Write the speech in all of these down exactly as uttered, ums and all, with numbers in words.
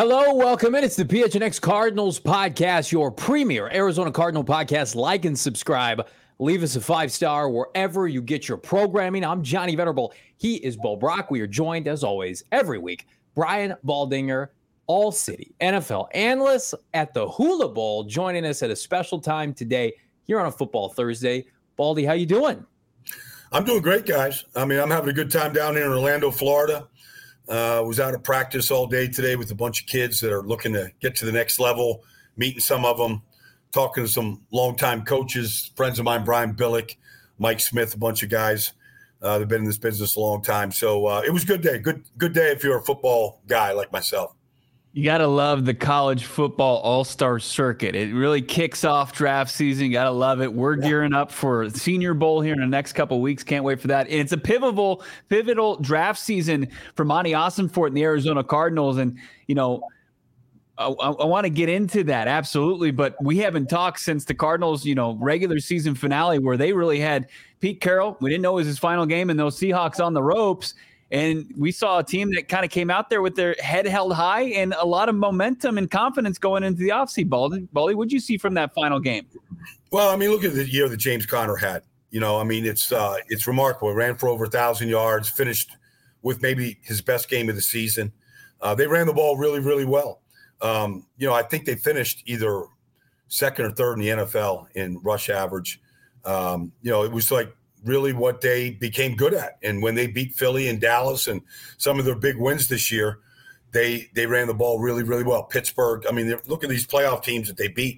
Hello, welcome in. It's the P H N X Cardinals podcast, your premier Arizona Cardinal podcast. Like and subscribe. Leave us a five-star wherever you get your programming. I'm Johnny Venerable. He is Bo Brock. We are joined, as always, every week, Brian Baldinger, All-City N F L analyst at the Hula Bowl, joining us at a special time today here on a Football Thursday. Baldy, how you doing? I'm doing great, guys. I mean, I'm having a good time down here in Orlando, Florida. Uh, was out of practice all day today with a bunch of kids that are looking to get to the next level, meeting some of them, talking to some longtime coaches, friends of mine, Brian Billick, Mike Smith, a bunch of guys uh, that have been in this business a long time. So uh, it was a good day. Good, good day if you're a football guy like myself. You got to love the college football all-star circuit. It really kicks off draft season. You got to love it. We're yeah. gearing up for Senior Bowl here in the next couple of weeks. Can't wait for that. And it's a pivotal, pivotal draft season for Monty Ossenfort and the Arizona Cardinals. And, you know, I, I want to get into that. Absolutely. But we haven't talked since the Cardinals, you know, regular season finale where they really had Pete Carroll. We didn't know it was his final game and those Seahawks on the ropes. And we saw a team that kind of came out there with their head held high and a lot of momentum and confidence going into the offseason. Baldy, Baldy, what did you see from that final game? Well, I mean, look at the year that James Conner had. You know, I mean, it's uh, it's remarkable. He ran for over one thousand yards, finished with maybe his best game of the season. Uh, they ran the ball really, really well. Um, you know, I think they finished either second or third in the N F L in rush average. Um, you know, it was like, really what they became good at. And when they beat Philly and Dallas and some of their big wins this year, they they ran the ball really, really well. Pittsburgh, I mean, look at these playoff teams that they beat.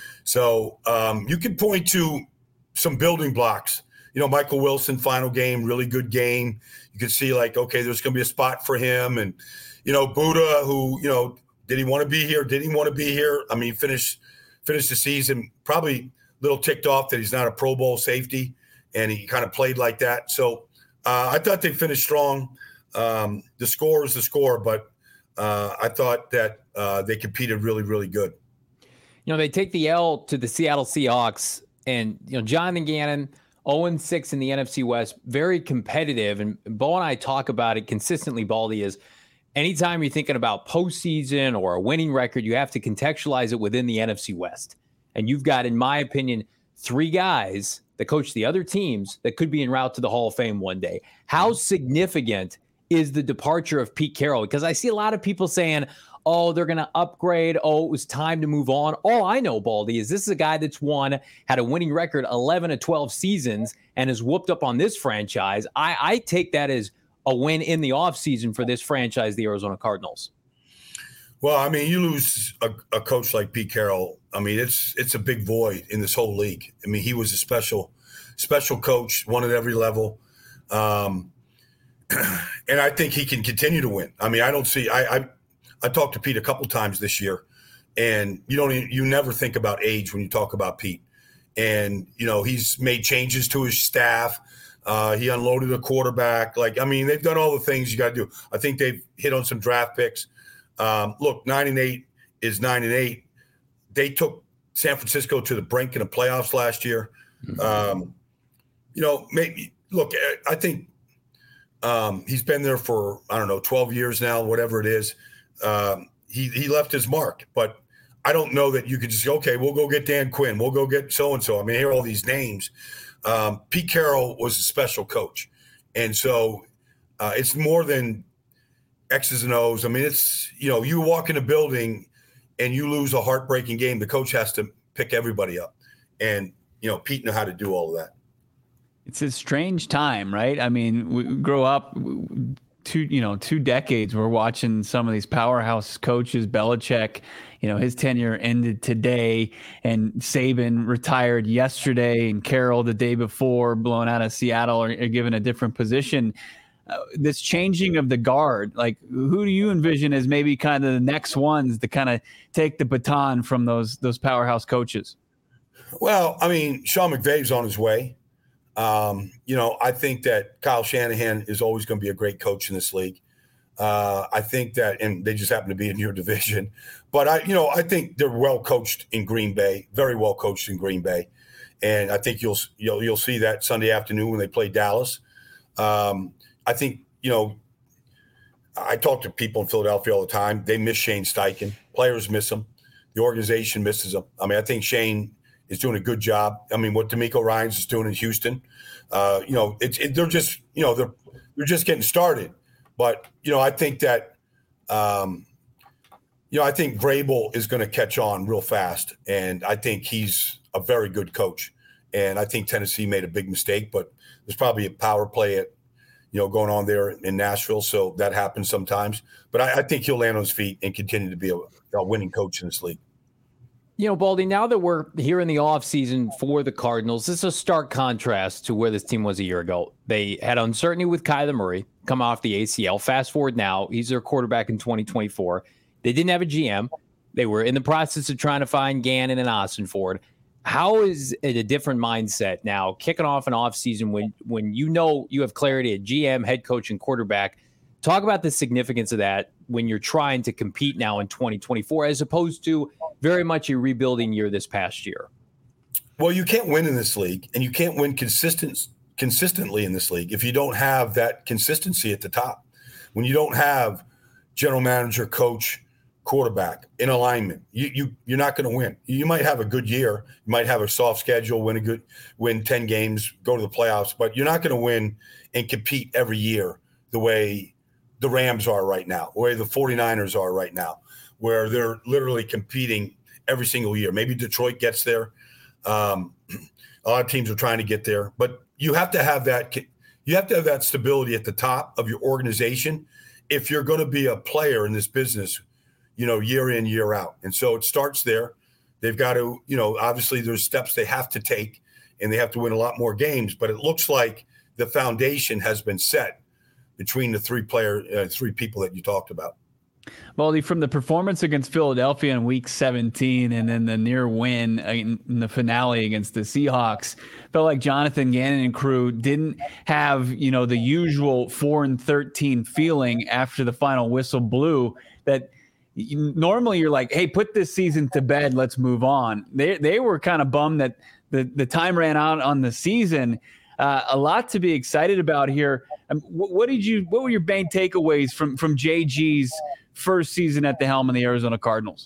So um, you can point to some building blocks. You know, Michael Wilson, final game, really good game. You can see like, okay, there's going to be a spot for him. And, you know, Buddha, who, you know, did he want to be here? Did he want to be here? I mean, finish finished the season probably a little ticked off that he's not a Pro Bowl safety. And he kind of played like that. So uh, I thought they finished strong. Um, the score is the score, but uh, I thought that uh, they competed really, really good. You know, they take the L to the Seattle Seahawks, and, you know, Jonathan Gannon, oh and six in the N F C West, very competitive. And Bo and I talk about it consistently, Baldy, is anytime you're thinking about postseason or a winning record, you have to contextualize it within the N F C West. And you've got, in my opinion, three guys that coach the other teams that could be en route to the Hall of Fame one day. How significant is the departure of Pete Carroll? Because I see a lot of people saying, oh, they're going to upgrade. Oh, it was time to move on. All I know, Baldy, is this is a guy that's won, had a winning record eleven to twelve seasons and has whooped up on this franchise. I, I take that as a win in the offseason for this franchise, the Arizona Cardinals. Well, I mean, you lose a, a coach like Pete Carroll. I mean, it's it's a big void in this whole league. I mean, he was a special, special coach, won at every level. Um, and I think he can continue to win. I mean, I don't see I, – I, I talked to Pete a couple times this year, and you don't even, you never think about age when you talk about Pete. And, you know, he's made changes to his staff. Uh, he unloaded a quarterback. Like, I mean, they've done all the things you got to do. I think they've hit on some draft picks. Um, look, nine and eight is nine and eight. They took San Francisco to the brink in the playoffs last year. Mm-hmm. Um, you know, maybe look, I think um, he's been there for, I don't know, twelve years now, whatever it is. Um, he, he left his mark, but I don't know that you could just say, okay, we'll go get Dan Quinn. We'll go get so-and-so. I mean, I hear all these names. Um, Pete Carroll was a special coach. And so uh, it's more than X's and O's. I mean, it's, you know, you walk in a building and you lose a heartbreaking game, the coach has to pick everybody up. And, you know, Pete knew how to do all of that. It's a strange time, right? I mean, we grow up two, you know, two decades. We're watching some of these powerhouse coaches, Belichick, you know, his tenure ended today, and Saban retired yesterday, and Carroll the day before, blown out of Seattle, or, or given a different position. Uh, this changing of the guard, like who do you envision as maybe kind of the next ones to kind of take the baton from those those powerhouse coaches? Well, I mean, Sean McVay's on his way. Um, you know, I think that Kyle Shanahan is always going to be a great coach in this league. Uh, I think that, and they just happen to be in your division, but I, you know, I think they're well coached in Green Bay, very well coached in Green Bay, and I think you'll you'll you'll see that Sunday afternoon when they play Dallas. Um, I think, you know, I talk to people in Philadelphia all the time. They miss Shane Steichen. Players miss him. The organization misses him. I mean, I think Shane is doing a good job. I mean, what D'Amico Ryans is doing in Houston, uh, you know, it's it, they're just, you know, they're they're just getting started. But you know, I think that, um, you know, I think Vrabel is going to catch on real fast, and I think he's a very good coach. And I think Tennessee made a big mistake, but there's probably a power play at, you know, going on there in Nashville. So that happens sometimes. But I, I think he'll land on his feet and continue to be a, a winning coach in this league. You know, Baldy, now that we're here in the offseason for the Cardinals, this is a stark contrast to where this team was a year ago. They had uncertainty with Kyler Murray come off the A C L. Fast forward now, he's their quarterback in twenty twenty-four. They didn't have a G M. They were in the process of trying to find Gannon and Austin Ford. How is it a different mindset now, kicking off an offseason when, when you know you have clarity at G M, head coach, and quarterback? Talk about the significance of that when you're trying to compete now in twenty twenty-four, as opposed to very much a rebuilding year this past year. Well, you can't win in this league, and you can't win consistent, consistently in this league if you don't have that consistency at the top. When you don't have general manager, coach, quarterback in alignment, you, you, you're not going to win. You might have a good year. You might have a soft schedule, win a good, win ten games, go to the playoffs, but you're not going to win and compete every year the way the Rams are right now, the way the 49ers are right now, where they're literally competing every single year. Maybe Detroit gets there. Um, a lot of teams are trying to get there, but you have to have that. You have to have that stability at the top of your organization if you're going to be a player in this business, you know, year in, year out. And so it starts there. They've got to, you know, obviously there's steps they have to take, and they have to win a lot more games. But it looks like the foundation has been set between the three player, uh, three people that you talked about. Baldy, from the performance against Philadelphia in Week seventeen and then the near win in the finale against the Seahawks, felt like Jonathan Gannon and crew didn't have, you know, the usual four and thirteen feeling after the final whistle blew. That normally you're like, hey, put this season to bed, let's move on. They they were kind of bummed that the the time ran out on the season. Uh, a lot to be excited about here. Um, what, what did you? What were your main takeaways from from J G's first season at the helm of the Arizona Cardinals?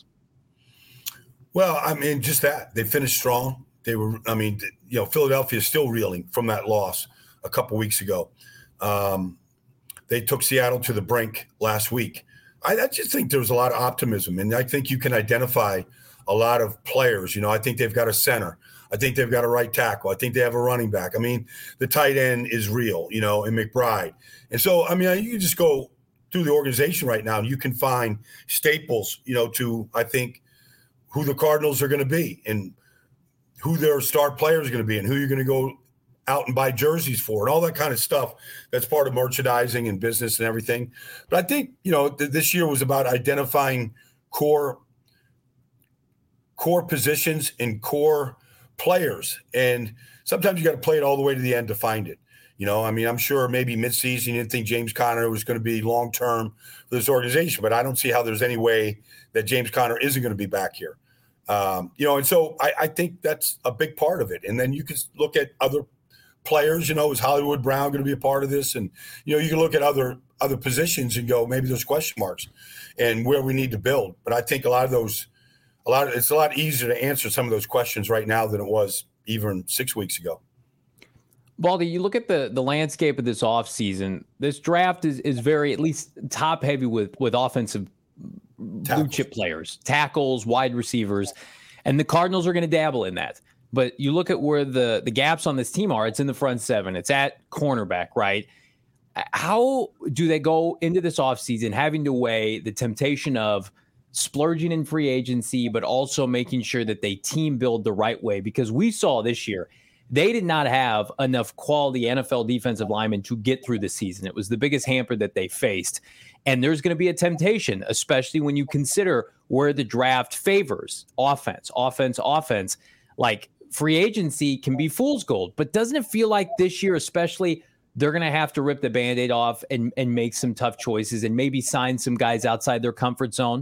Well, I mean, just that they finished strong. They were, I mean, you know, Philadelphia is still reeling from that loss a couple weeks ago. Um, they took Seattle to the brink last week. I, I just think there was a lot of optimism, and I think you can identify a lot of players. You know, I think they've got a center. I think they've got a right tackle. I think they have a running back. I mean, the tight end is real, you know, and McBride. And so, I mean, you can just go through the organization right now, and you can find staples, you know, to, I think, who the Cardinals are going to be and who their star players are going to be and who you're going to go out and buy jerseys for and all that kind of stuff. That's part of merchandising and business and everything. But I think, you know, th- this year was about identifying core core positions and core players. And sometimes you got to play it all the way to the end to find it. You know, I mean, I'm sure maybe midseason you didn't think James Conner was going to be long-term for this organization, but I don't see how there's any way that James Conner isn't going to be back here. Um, you know, and so I, I think that's a big part of it. And then you can look at other players, you know, is Hollywood Brown going to be a part of this? And, you know, you can look at other other positions and go, maybe there's question marks and where we need to build. But I think a lot of those, a lot of, it's a lot easier to answer some of those questions right now than it was even six weeks ago. Baldy, you look at the the landscape of this offseason, this draft is is very, at least top heavy with with offensive blue chip players, tackles, wide receivers, and the Cardinals are going to dabble in that. But you look at where the the gaps on this team are, it's in the front seven, it's at cornerback, right? How do they go into this offseason having to weigh the temptation of splurging in free agency, but also making sure that they team build the right way? Because we saw this year, they did not have enough quality N F L defensive linemen to get through the season. It was the biggest hamper that they faced. And there's going to be a temptation, especially when you consider where the draft favors offense, offense, offense. Like free agency can be fool's gold, but doesn't it feel like this year, especially, they're going to have to rip the Band-Aid off and, and make some tough choices and maybe sign some guys outside their comfort zone?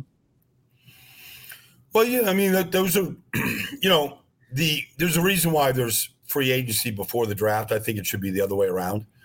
Well, yeah, I mean, those are, you know, the there's a reason why there's free agency before the draft. I think it should be the other way around.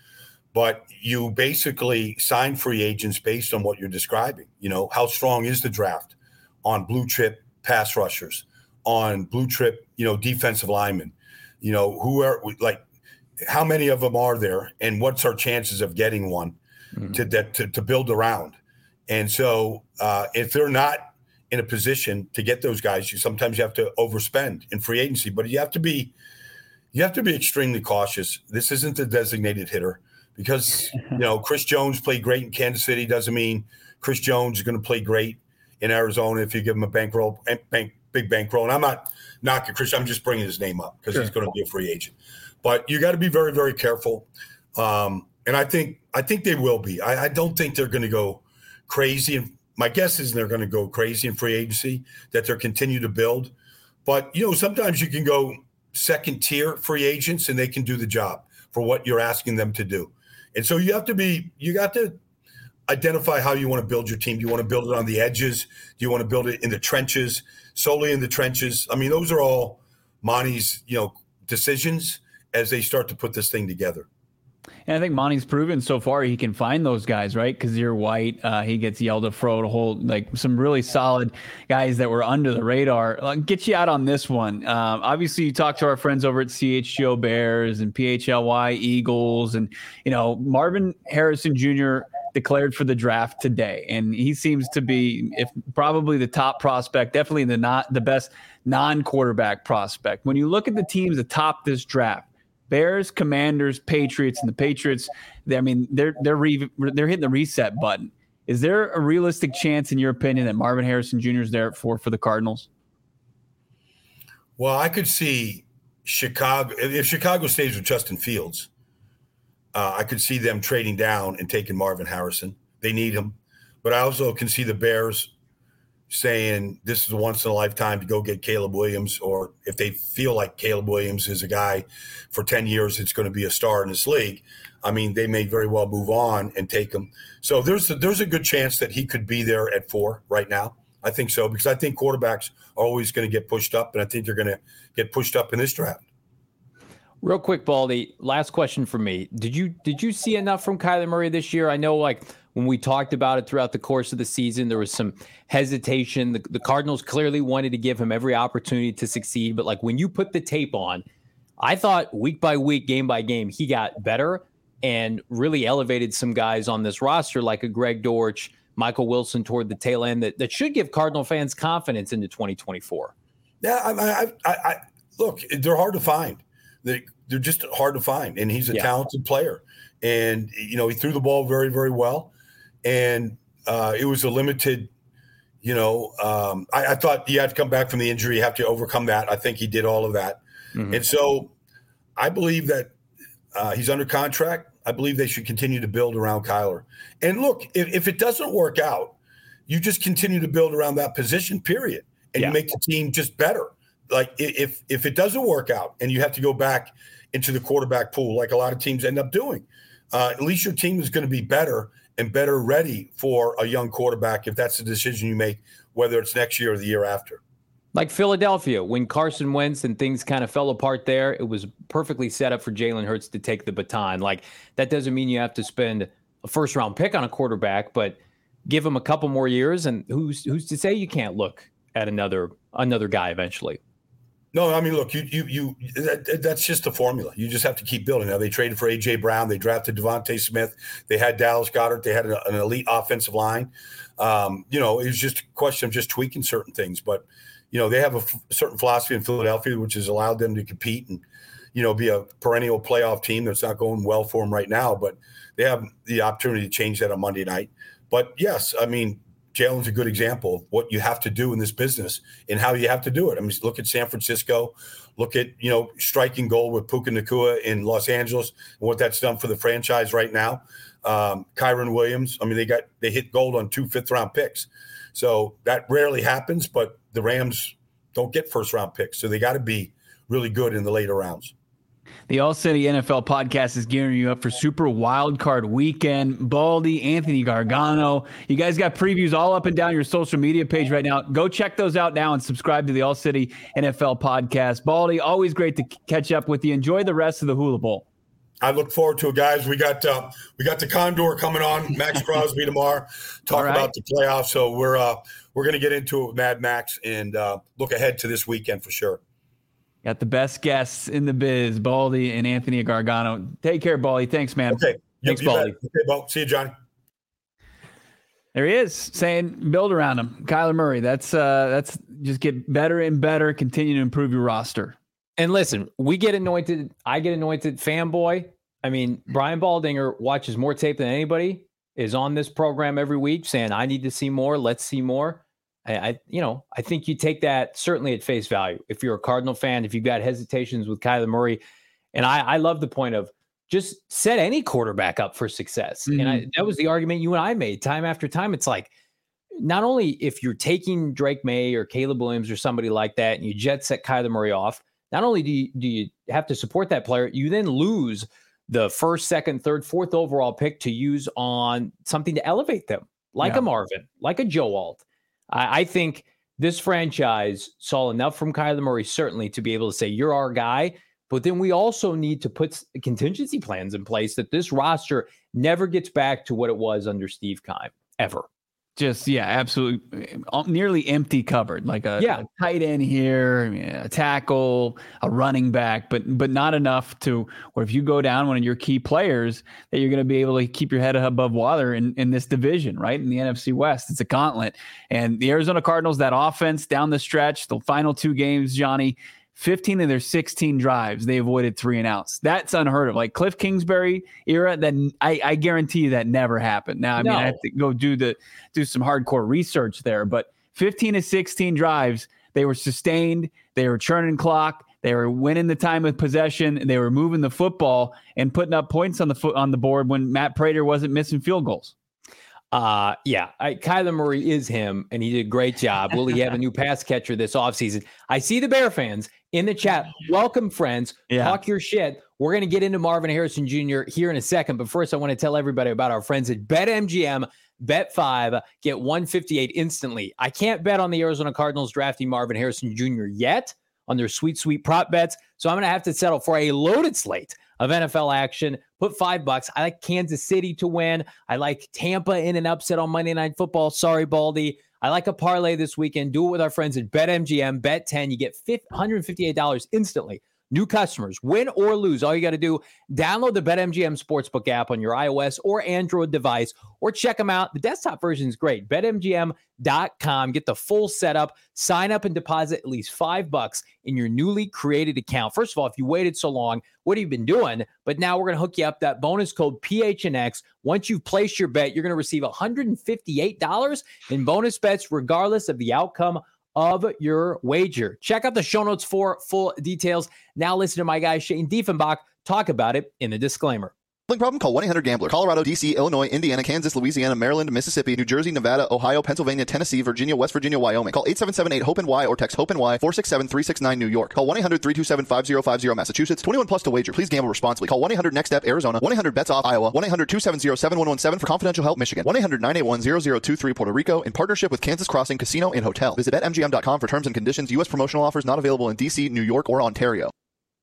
but you basically sign free agents based on what you're describing. You know, how strong is the draft on blue chip pass rushers, on blue chip, you know, defensive linemen, you know, who are like, how many of them are there, and what's our chances of getting one mm-hmm. to, to to build around? And so uh, if they're not in a position to get those guys, you sometimes you have to overspend in free agency, but you have to be you have to be extremely cautious. This isn't a designated hitter because, you know, Chris Jones played great in Kansas City doesn't mean Chris Jones is going to play great in Arizona if you give him a bankroll, bank, big bankroll. And I'm not knocking Chris. I'm just bringing his name up because sure. he's going to be a free agent. But you got to be very, very careful. Um, and I think I think they will be. I, I don't think they're going to go crazy. And my guess is they're going to go crazy in free agency, that they'll continue to build. But, you know, sometimes you can go second tier free agents and they can do the job for what you're asking them to do. And so you have to be, you got to identify how you want to build your team. Do you want to build it on the edges? Do you want to build it in the trenches, solely in the trenches? I mean, those are all Monty's, you know, decisions as they start to put this thing together. And I think Monty's proven so far he can find those guys, right? Because you're White, uh, he gets yelled at for a whole, like some really solid guys that were under the radar. I'll get you out on this one. Um, obviously, you talk to our friends over at C H G O Bears and P H L Y Eagles, and you know Marvin Harrison Junior declared for the draft today, and he seems to be, if probably the top prospect, definitely the not the best non-quarterback prospect. When you look at the teams atop this draft, Bears, Commanders, Patriots, and the Patriots, they, I mean, they're they're re, they're hitting the reset button. Is there a realistic chance, in your opinion, that Marvin Harrison Junior is there at four for the Cardinals? Well, I could see Chicago if Chicago stays with Justin Fields. Uh, I could see them trading down and taking Marvin Harrison. They need him, but I also can see the Bears saying this is a once in a lifetime to go get Caleb Williams, or if they feel like Caleb Williams is a guy for ten years, it's going to be a star in this league. I mean, they may very well move on and take him. So there's a, there's a good chance that he could be there at four right now. I think so, because I think quarterbacks are always going to get pushed up, and I think they're going to get pushed up in this draft. Real quick, Baldy, last question for me. Did you did you see enough from Kyler Murray this year? I know, like, when we talked about it throughout the course of the season, there was some hesitation. The, the Cardinals clearly wanted to give him every opportunity to succeed. But, like, when you put the tape on, I thought week by week, game by game, he got better and really elevated some guys on this roster, like a Greg Dortch, Michael Wilson toward the tail end, that, that should give Cardinal fans confidence into twenty twenty-four. Yeah, I, I, I, I look, they're hard to find. They, they're just hard to find. And he's a yeah. talented player. And, you know, he threw the ball very, very well. And uh, it was a limited, you know, um, I, I thought you had to come back from the injury. You have to overcome that. I think he did all of that. Mm-hmm. And so I believe that uh, he's under contract. I believe they should continue to build around Kyler. And look, if, if it doesn't work out, you just continue to build around that position, period. And yeah. you make the team just better. Like if if it doesn't work out and you have to go back into the quarterback pool, like a lot of teams end up doing, uh, at least your team is going to be better and better ready for a young quarterback if that's the decision you make, whether it's next year or the year after. Like Philadelphia, when Carson Wentz and things kind of fell apart there, it was perfectly set up for Jalen Hurts to take the baton. Like, that doesn't mean you have to spend a first round pick on a quarterback, but give him a couple more years, and who's who's to say you can't look at another another guy eventually. No, I mean, look, you you you that, that's just the formula. You just have to keep building. Now, they traded for A J Brown. They drafted Devontae Smith. They had Dallas Goedert. They had an, an elite offensive line. Um, you know, it was just a question of just tweaking certain things. But, you know, they have a f- certain philosophy in Philadelphia, which has allowed them to compete and, you know, be a perennial playoff team. That's not going well for them right now, but they have the opportunity to change that on Monday night. But, yes, I mean, Jalen's a good example of what you have to do in this business and how you have to do it. I mean, look at San Francisco, look at, you know, striking gold with Puka Nacua in Los Angeles and what that's done for the franchise right now. Um, Kyron Williams, I mean, they got, they hit gold on two fifth round picks. So that rarely happens, but the Rams don't get first round picks. So they got to be really good in the later rounds. The All City N F L podcast is gearing you up for Super Wildcard Weekend. Baldy, Anthony Gargano. You guys got previews all up and down your social media page right now. Go check those out now and subscribe to the All City N F L podcast. Baldy, always great to catch up with you. Enjoy the rest of the Hula Bowl. I look forward to it, guys. We got uh, we got the Condor coming on, Max Crosby tomorrow. Talk right. about the playoffs. So we're uh, we're going to get into it with Mad Max and uh, look ahead to this weekend for sure. Got the best guests in the biz, Baldy and Anthony Gargano. Take care, Baldy. Thanks, man. Okay. Thanks, Baldy. Okay, Bo. See you, Johnny. There he is, saying build around him. Kyler Murray. That's uh, that's just get better and better. Continue to improve your roster. And listen, we get anointed. I get anointed fanboy. I mean, Brian Baldinger watches more tape than anybody. Is on this program every week, saying I need to see more. Let's see more. I, I, you know, I think you take that certainly at face value. If you're a Cardinal fan, if you've got hesitations with Kyler Murray, and I, I love the point of just set any quarterback up for success. Mm-hmm. And I, that was the argument you and I made time after time. It's like, not only if you're taking Drake May or Caleb Williams or somebody like that, and you jet set Kyler Murray off, not only do you, do you have to support that player, you then lose the first, second, third, fourth overall pick to use on something to elevate them, like yeah. a Marvin, like a Joe Alt. I, I think this franchise saw enough from Kyler Murray, certainly, to be able to say, you're our guy. But then we also need to put contingency plans in place that this roster never gets back to what it was under Steve Keim, ever. Just, yeah, absolutely. Nearly empty cupboard, like a, yeah. a tight end here, a tackle, a running back, but but not enough to where if you go down one of your key players, that you're going to be able to keep your head above water in, in this division, right? In the N F C West, it's a gauntlet. And the Arizona Cardinals, that offense down the stretch, the final two games, Johnny, fifteen of their sixteen drives, they avoided three and outs. That's unheard of. Like Cliff Kingsbury era, that I, I guarantee you that never happened. Now, I no. mean, I have to go do the do some hardcore research there, but fifteen of sixteen drives, they were sustained. They were churning clock. They were winning the time of possession. They were moving the football and putting up points on the foot on the board when Matt Prater wasn't missing field goals. Uh, yeah, I, Kyler Murray is him, and he did a great job. Will he have a new pass catcher this offseason? I see the Bear fans in the chat. Welcome, friends. Yeah. Talk your shit. We're going to get into Marvin Harrison Junior here in a second, but first I want to tell everybody about our friends at BetMGM. Bet five, get one fifty-eight instantly. I can't bet on the Arizona Cardinals drafting Marvin Harrison Junior yet on their sweet, sweet prop bets, so I'm going to have to settle for a loaded slate of N F L action. Put five bucks. I like Kansas City to win. I like Tampa in an upset on Monday Night Football. Sorry, Baldy. I like a parlay this weekend. Do it with our friends at BetMGM. Bet ten. You get one hundred fifty-eight dollars instantly. New customers, win or lose. All you got to do, download the BetMGM Sportsbook app on your iOS or Android device, or check them out. The desktop version is great. Bet M G M dot com. Get the full setup. Sign up and deposit at least five bucks in your newly created account. First of all, if you waited so long, what have you been doing? But now we're going to hook you up. That bonus code P H N X. Once you've placed your bet, you're going to receive one hundred fifty-eight dollars in bonus bets, regardless of the outcome of your wager. Check out the show notes for full details. Now listen to my guy Shane Diefenbach talk about it in the disclaimer. Problem? Call one eight hundred gambler. Colorado, D C, Illinois, Indiana, Kansas, Louisiana, Maryland, Mississippi, New Jersey, Nevada, Ohio, Pennsylvania, Tennessee, Virginia, West Virginia, Wyoming. Call eight seven seven eight hope N Y or text HOPE-N Y four six seven three six nine New York. Call one eight hundred three two seven five zero five zero Massachusetts. twenty-one plus to wager. Please gamble responsibly. Call one eight hundred next step Arizona. one eight hundred bets off Iowa. one eight hundred two seven zero seven one one seven for confidential help Michigan. one eight hundred nine eight one zero zero two three Puerto Rico in partnership with Kansas Crossing Casino and Hotel. Visit Bet M G M dot com for terms and conditions. U S promotional offers not available in D C, New York, or Ontario.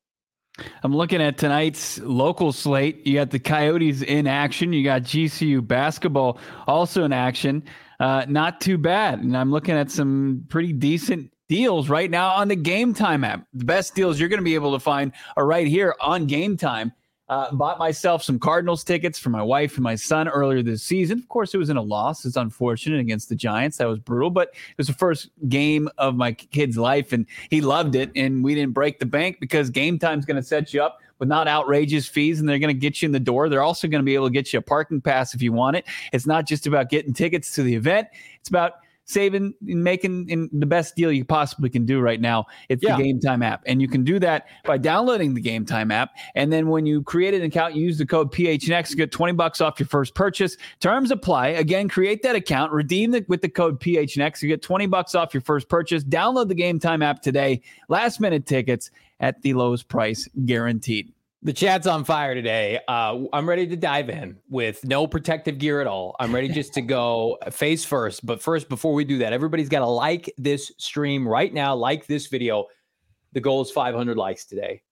I'm looking at tonight's local slate. You got the Coyotes in action. You got G C U basketball also in action. Uh, not too bad. And I'm looking at some pretty decent deals right now on the Game Time app. The best deals you're going to be able to find are right here on Game Time. Uh, bought myself some Cardinals tickets for my wife and my son earlier this season. Of course, it was in a loss. It's unfortunate against the Giants. That was brutal, but it was the first game of my kid's life, and he loved it, and we didn't break the bank because Game Time's going to set you up with not outrageous fees, and they're going to get you in the door. They're also going to be able to get you a parking pass if you want it. It's not just about getting tickets to the event. It's about saving and making in the best deal you possibly can do right now. It's yeah. the Game Time app. And you can do that by downloading the Game Time app. And then when you create an account, you use the code P H N X to get twenty bucks off your first purchase. Terms apply. Again, create that account, redeem it with the code P H N X. You get twenty bucks off your first purchase. Download the Game Time app today. Last minute tickets at the lowest price guaranteed. The chat's on fire today. Uh, I'm ready to dive in with no protective gear at all. I'm ready just to go face first. But first, before we do that, everybody's got to like this stream right now. Like this video. The goal is five hundred likes today.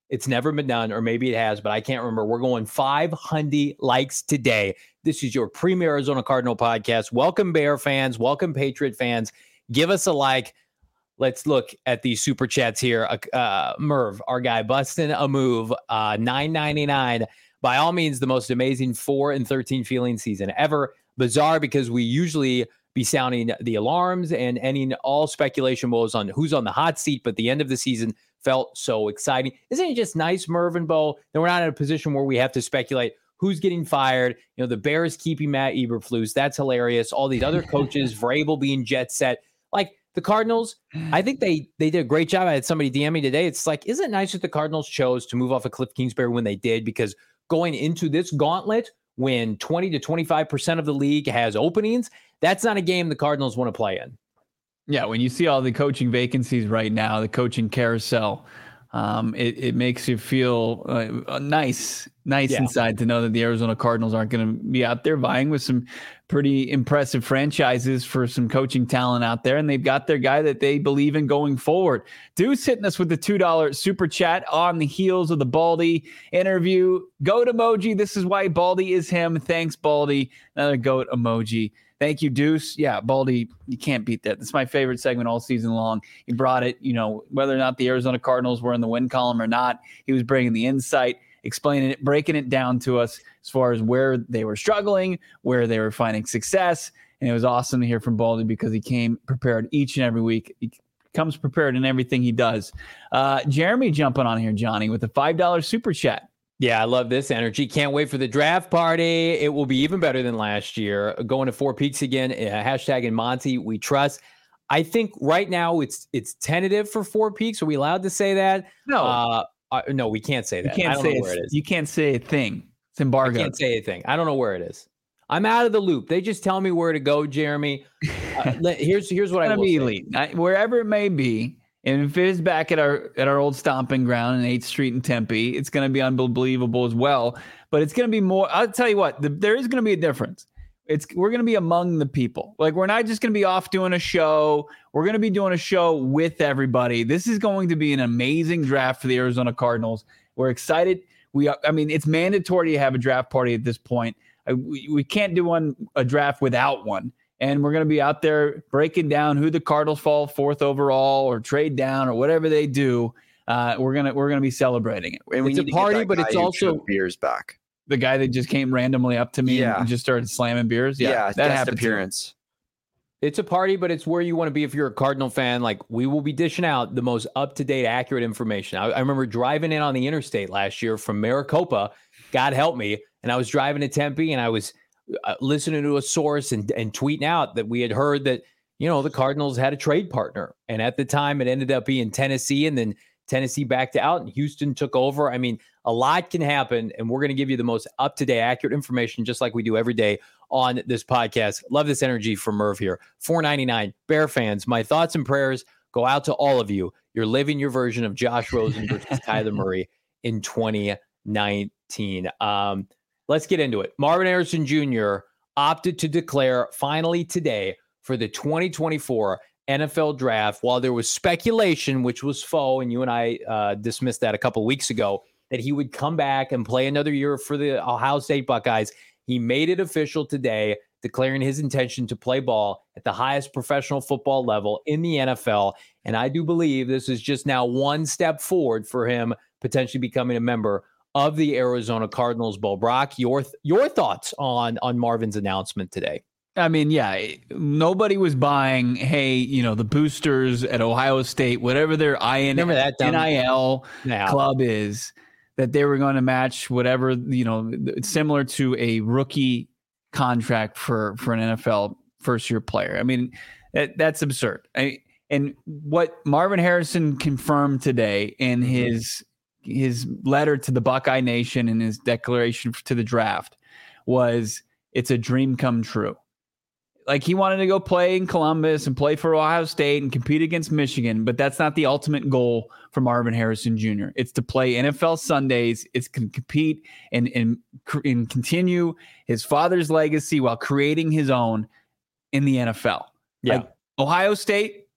It's never been done, or maybe it has, but I can't remember. We're going five hundred likes today. This is your premier Arizona Cardinal podcast. Welcome, Bear fans. Welcome, Patriot fans. Give us a like. Let's look at these super chats here. Uh, Merv, our guy, busting a move, uh, nine ninety-nine. By all means, the most amazing four and thirteen feeling season ever. Bizarre because we usually be sounding the alarms and ending all speculation woes on who's on the hot seat, but the end of the season felt so exciting. Isn't it just nice, Merv and Bo, that we're not in a position where we have to speculate who's getting fired? You know, the Bears keeping Matt Eberflus. That's hilarious. All these other coaches, Vrabel being jet set. Like the Cardinals, I think they they did a great job. I had somebody D M me today. It's like, isn't it nice that the Cardinals chose to move off of Cliff Kingsbury when they did? Because going into this gauntlet, when twenty to twenty-five percent of the league has openings, that's not a game the Cardinals want to play in. Yeah, when you see all the coaching vacancies right now, the coaching carousel, um, it, it makes you feel uh, nice, nice yeah. inside to know that the Arizona Cardinals aren't going to be out there vying with some pretty impressive franchises for some coaching talent out there, and they've got their guy that they believe in going forward. Deuce hitting us with the two dollars super chat on the heels of the Baldy interview. Goat emoji. This is why Baldy is him. Thanks, Baldy. Another goat emoji. Thank you, Deuce. Yeah, Baldy, you can't beat that. That's my favorite segment all season long. He brought it, you know, whether or not the Arizona Cardinals were in the win column or not, he was bringing the insight, explaining it, breaking it down to us as far as where they were struggling, where they were finding success. And it was awesome to hear from Baldy because he came prepared each and every week. He comes prepared in everything he does. Uh, Jeremy jumping on here, Johnny, with a five dollars super chat. Yeah, I love this energy. Can't wait for the draft party. It will be even better than last year. Going to Four Peaks again. Uh, hashtag in Monty, we trust. I think right now it's it's tentative for Four Peaks. Are we allowed to say that? No. Uh, uh, no, we can't say that. You can't I don't say know where it is. You can't say a thing. It's embargoed. I can't say a thing. I don't know where it is. I'm out of the loop. They just tell me where to go, Jeremy. Uh, let, here's here's what I will say. Elite. I, wherever it may be. And if it is back at our at our old stomping ground in eighth Street in Tempe, it's going to be unbelievable as well. But it's going to be more. I'll tell you what, the, there is going to be a difference. It's we're going to be among the people. Like, we're not just going to be off doing a show. We're going to be doing a show with everybody. This is going to be an amazing draft for the Arizona Cardinals. We're excited. We are, I mean, it's mandatory to have a draft party at this point. I, we, we can't do one a draft without one. And we're going to be out there breaking down who the Cardinals fall fourth overall or trade down or whatever they do. Uh, we're gonna we're gonna be celebrating it. And it's a party, but it's also beers back. The guy that just came randomly up to me yeah. and just started slamming beers. Yeah, yeah that happened. Appearance. It's a party, but it's where you want to be if you're a Cardinal fan. Like, we will be dishing out the most up-to-date, accurate information. I, I remember driving in on the interstate last year from Maricopa, God help me, and I was driving to Tempe, and I was uh, listening to a source and, and tweeting out that we had heard that, you know, the Cardinals had a trade partner. And at the time, it ended up being Tennessee, and then Tennessee backed out, and Houston took over. I mean, a lot can happen, and we're going to give you the most up-to-date, accurate information, just like we do every day on this podcast. Love this energy from Merv here. four ninety-nine, Bear fans, my thoughts and prayers go out to all of you. You're living your version of Josh Rosen versus Kyler Murray in twenty nineteen. Um, let's get into it. Marvin Harrison Junior opted to declare finally today for the twenty twenty-four N F L draft. While there was speculation, which was faux, and you and I uh, dismissed that a couple of weeks ago, that he would come back and play another year for the Ohio State Buckeyes, he made it official today, declaring his intention to play ball at the highest professional football level in the N F L. And I do believe this is just now one step forward for him potentially becoming a member of the Arizona Cardinals. Bo Brock, your your thoughts on, on Marvin's announcement today? I mean, yeah, nobody was buying, hey, you know, the boosters at Ohio State, whatever their I N I L yeah. club is, that they were going to match whatever, you know, similar to a rookie contract for, for an N F L first-year player. I mean, that, that's absurd. I, and what Marvin Harrison confirmed today in mm-hmm. his his letter to the Buckeye Nation and his declaration to the draft was, it's a dream come true. Like, he wanted to go play in Columbus and play for Ohio State and compete against Michigan, but that's not the ultimate goal for Marvin Harrison Junior It's to play N F L Sundays. It's to compete and, and, and continue his father's legacy while creating his own in the N F L. Yeah. Like, Ohio State,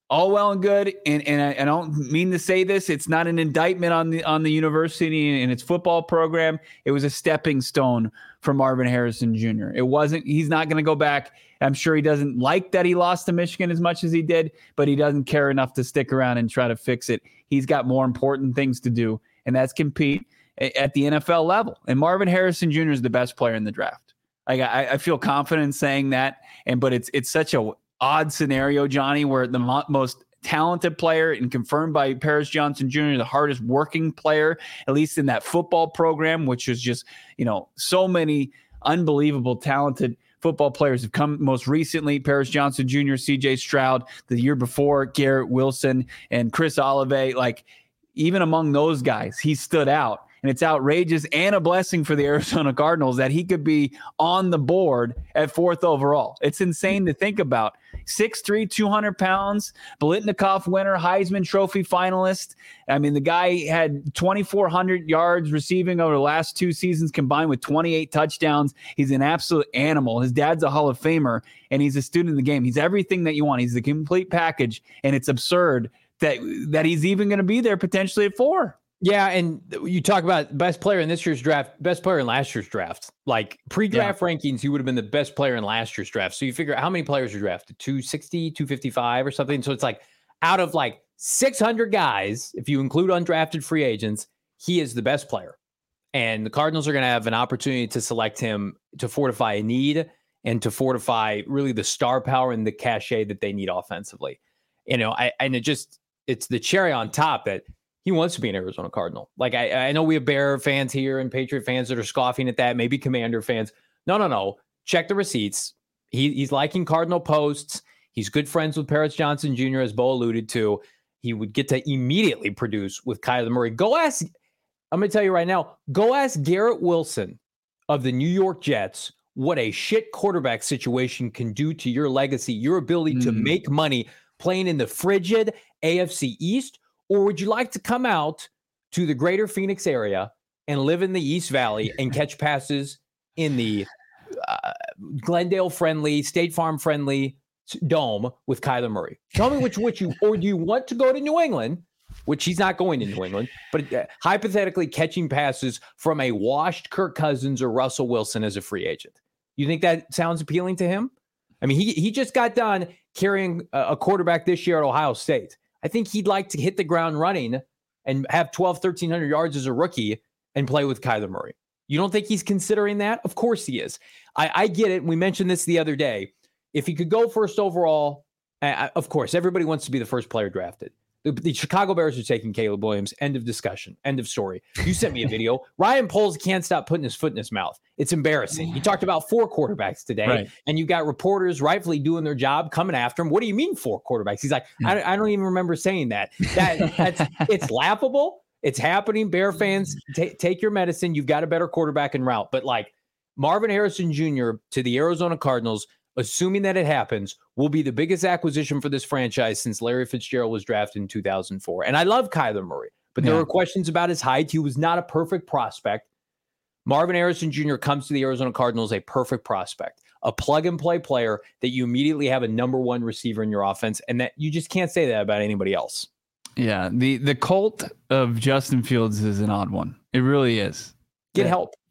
all well and good, and and I, I don't mean to say this. It's not an indictment on the on the university and its football program. It was a stepping stone for Marvin Harrison Junior It wasn't. He's not going to go back. I'm sure he doesn't like that he lost to Michigan as much as he did, but he doesn't care enough to stick around and try to fix it. He's got more important things to do, and that's compete at the N F L level. And Marvin Harrison Junior is the best player in the draft. Like I, I feel confident in saying that, and but it's it's such a odd scenario, Johnny, where the mo- most talented player and confirmed by Paris Johnson Junior, the hardest working player, at least in that football program, which is just, you know, so many unbelievable talented football players have come most recently. Paris Johnson Junior, C J Stroud, the year before, Garrett Wilson and Chris Olave. Like, even among those guys, he stood out. And it's outrageous and a blessing for the Arizona Cardinals that he could be on the board at fourth overall. It's insane to think about. six three, two hundred pounds, Biletnikoff winner, Heisman Trophy finalist. I mean, the guy had twenty-four hundred yards receiving over the last two seasons combined with twenty-eight touchdowns. He's an absolute animal. His dad's a Hall of Famer, and he's a student of the game. He's everything that you want. He's the complete package, and it's absurd that, that he's even going to be there potentially at four. Yeah, and you talk about best player in this year's draft, best player in last year's draft. Like pre-draft yeah. rankings, he would have been the best player in last year's draft. So you figure out how many players are drafted, two sixty, two fifty-five or something. So it's like out of like six hundred guys, if you include undrafted free agents, he is the best player. And the Cardinals are going to have an opportunity to select him to fortify a need and to fortify really the star power and the cachet that they need offensively. You know, I and it just, it's the cherry on top that he wants to be an Arizona Cardinal. Like, I, I know we have Bear fans here and Patriot fans that are scoffing at that, maybe Commander fans. No, no, no. Check the receipts. He, he's liking Cardinal posts. He's good friends with Paris Johnson Junior, as Bo alluded to. He would get to immediately produce with Kyler Murray. Go ask, I'm going to tell you right now, go ask Garrett Wilson of the New York Jets what a shit quarterback situation can do to your legacy, your ability mm. to make money playing in the frigid A F C East. Or would you like to come out to the greater Phoenix area and live in the East Valley and catch passes in the uh, Glendale-friendly, State Farm-friendly dome with Kyler Murray? Tell me which which you, or do you want to go to New England, which he's not going to New England, but uh, hypothetically catching passes from a washed Kirk Cousins or Russell Wilson as a free agent? You think that sounds appealing to him? I mean, he he just got done carrying a, a quarterback this year at Ohio State. I think he'd like to hit the ground running and have twelve, thirteen hundred yards as a rookie and play with Kyler Murray. You don't think he's considering that? Of course he is. I, I get it. We mentioned this the other day. If he could go first overall, uh, of course, everybody wants to be the first player drafted. The, the Chicago Bears are taking Caleb Williams. End of discussion. End of story. You sent me a video. Ryan Poles can't stop putting his foot in his mouth. It's embarrassing. He talked about four quarterbacks today, right. And you got reporters rightfully doing their job coming after him. What do you mean four quarterbacks? He's like, I, I don't even remember saying that. That that's it's laughable. It's happening. Bear fans, t- take your medicine. You've got a better quarterback en route. But like Marvin Harrison Junior to the Arizona Cardinals, assuming that it happens, will be the biggest acquisition for this franchise since Larry Fitzgerald was drafted in two thousand four. And I love Kyler Murray, but there yeah. were questions about his height. He was not a perfect prospect. Marvin Harrison Junior comes to the Arizona Cardinals a perfect prospect, a plug-and-play player that you immediately have a number one receiver in your offense, and that you just can't say that about anybody else. Yeah, the, the cult of Justin Fields is an odd one. It really is. Get yeah. help.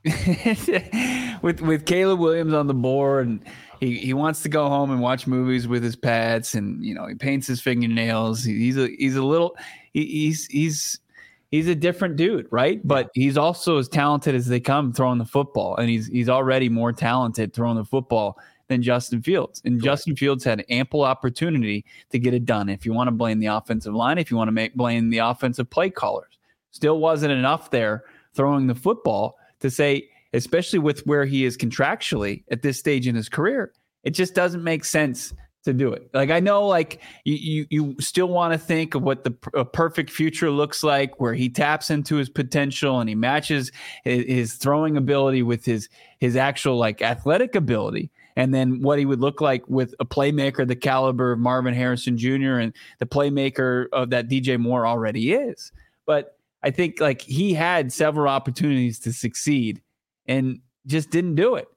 with with Caleb Williams on the board, and he, he wants to go home and watch movies with his pets, and you know he paints his fingernails. He, he's a he's a little he, he's he's he's a different dude, right? But he's also as talented as they come throwing the football, and he's he's already more talented throwing the football than Justin Fields. And Correct. Justin Fields had ample opportunity to get it done. If you want to blame the offensive line, if you want to make blame the offensive play callers, still wasn't enough there throwing the football to say, especially with where he is contractually at this stage in his career, it just doesn't make sense to do it. Like, I know, like you, you, you still want to think of what the a perfect future looks like, where he taps into his potential and he matches his, his throwing ability with his, his actual like athletic ability. And then what he would look like with a playmaker, the caliber of Marvin Harrison Junior and the playmaker of that D J Moore already is. But I think like he had several opportunities to succeed and just didn't do it.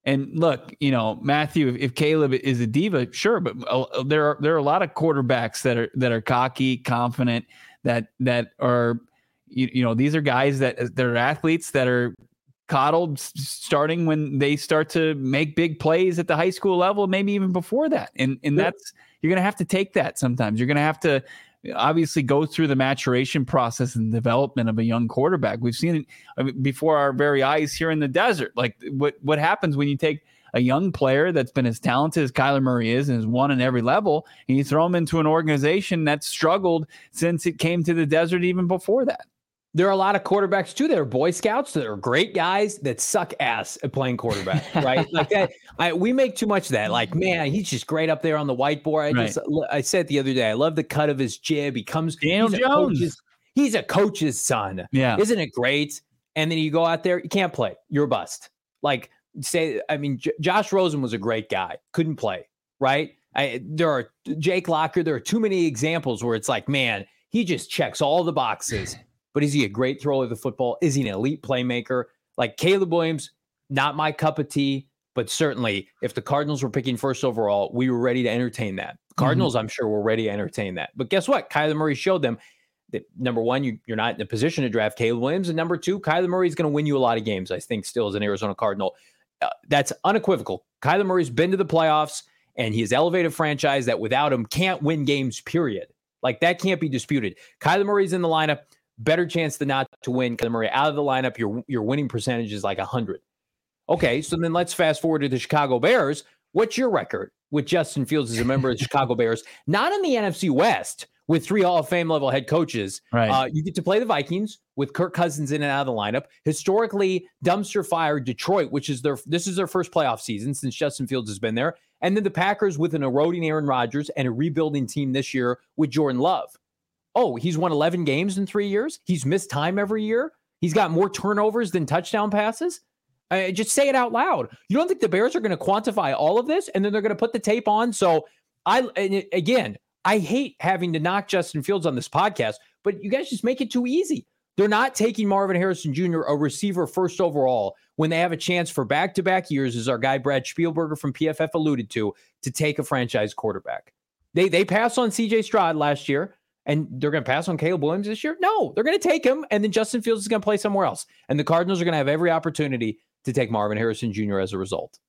And look, you know, Matthew, if, if Caleb is a diva, sure, but uh, there are there are a lot of quarterbacks that are that are cocky, confident, that that are, you, you know, these are guys that that are athletes that are coddled starting when they start to make big plays at the high school level, maybe even before that. And and that's, you're going to have to take that sometimes. You're going to have to obviously go through the maturation process and development of a young quarterback. We've seen it I mean, before our very eyes here in the desert. Like what, what happens when you take a young player that's been as talented as Kyler Murray is and has won in every level, and you throw him into an organization that's struggled since it came to the desert even before that. There are a lot of quarterbacks too that are Boy Scouts that are great guys that suck ass at playing quarterback, right? Like that. I, we make too much of that. Like, man, he's just great up there on the whiteboard. I Right. just, I said the other day, I love the cut of his jib. He comes, Daniel he's a Jones. coach's, he's a coach's son. Yeah. Isn't it great? And then you go out there, you can't play. You're a bust. Like say, I mean, J- Josh Rosen was a great guy. Couldn't play, right? I, there are Jake Locker. There are too many examples where it's like, man, he just checks all the boxes. But is he a great thrower of the football? Is he an elite playmaker? Like Caleb Williams, not my cup of tea, but certainly if the Cardinals were picking first overall, we were ready to entertain that. Cardinals, mm-hmm. I'm sure, were ready to entertain that. But guess what? Kyler Murray showed them that, number one, you, you're not in a position to draft Caleb Williams. And number two, Kyler Murray is going to win you a lot of games, I think, still as an Arizona Cardinal. Uh, that's unequivocal. Kyler Murray's been to the playoffs, and he has elevated a franchise that without him can't win games, period. Like that can't be disputed. Kyler Murray's in the lineup. Better chance than not to win. Kyler Murray out of the lineup, your your winning percentage is like one hundred. Okay, so then let's fast forward to the Chicago Bears. What's your record with Justin Fields as a member of the Chicago Bears? Not in the N F C West with three Hall of Fame level head coaches. Right. Uh, you get to play the Vikings with Kirk Cousins in and out of the lineup. Historically, dumpster fire Detroit, which is their this is their first playoff season since Justin Fields has been there. And then the Packers with an eroding Aaron Rodgers and a rebuilding team this year with Jordan Love. Oh, he's won eleven games in three years. He's missed time every year. He's got more turnovers than touchdown passes. Uh, just say it out loud. You don't think the Bears are going to quantify all of this and then they're going to put the tape on? So I, and it, again, I hate having to knock Justin Fields on this podcast, but you guys just make it too easy. They're not taking Marvin Harrison Junior, a receiver first overall, when they have a chance for back-to-back years, as our guy Brad Spielberger from P F F alluded to, to take a franchise quarterback. They, they passed on C J Stroud last year. And they're going to pass on Caleb Williams this year? No, they're going to take him, and then Justin Fields is going to play somewhere else. And the Cardinals are going to have every opportunity to take Marvin Harrison Junior as a result.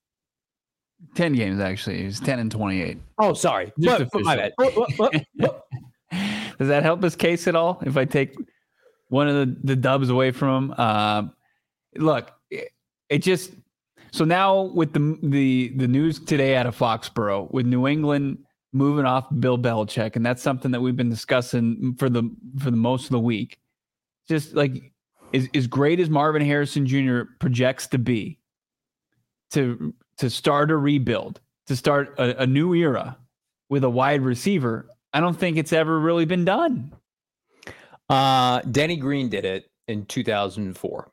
ten games, actually. He was ten and twenty-eight. Oh, sorry. But, but my bad. Does that help his case at all if I take one of the, the dubs away from him? Uh, look, it, it just – so now with the, the the news today out of Foxborough, with New England – moving off Bill Belichick, and that's something that we've been discussing for the for the most of the week. Just like as, as great as Marvin Harrison Junior projects to be, to to start a rebuild, to start a, a new era with a wide receiver, I don't think it's ever really been done. Uh, Denny Green did it in two thousand four,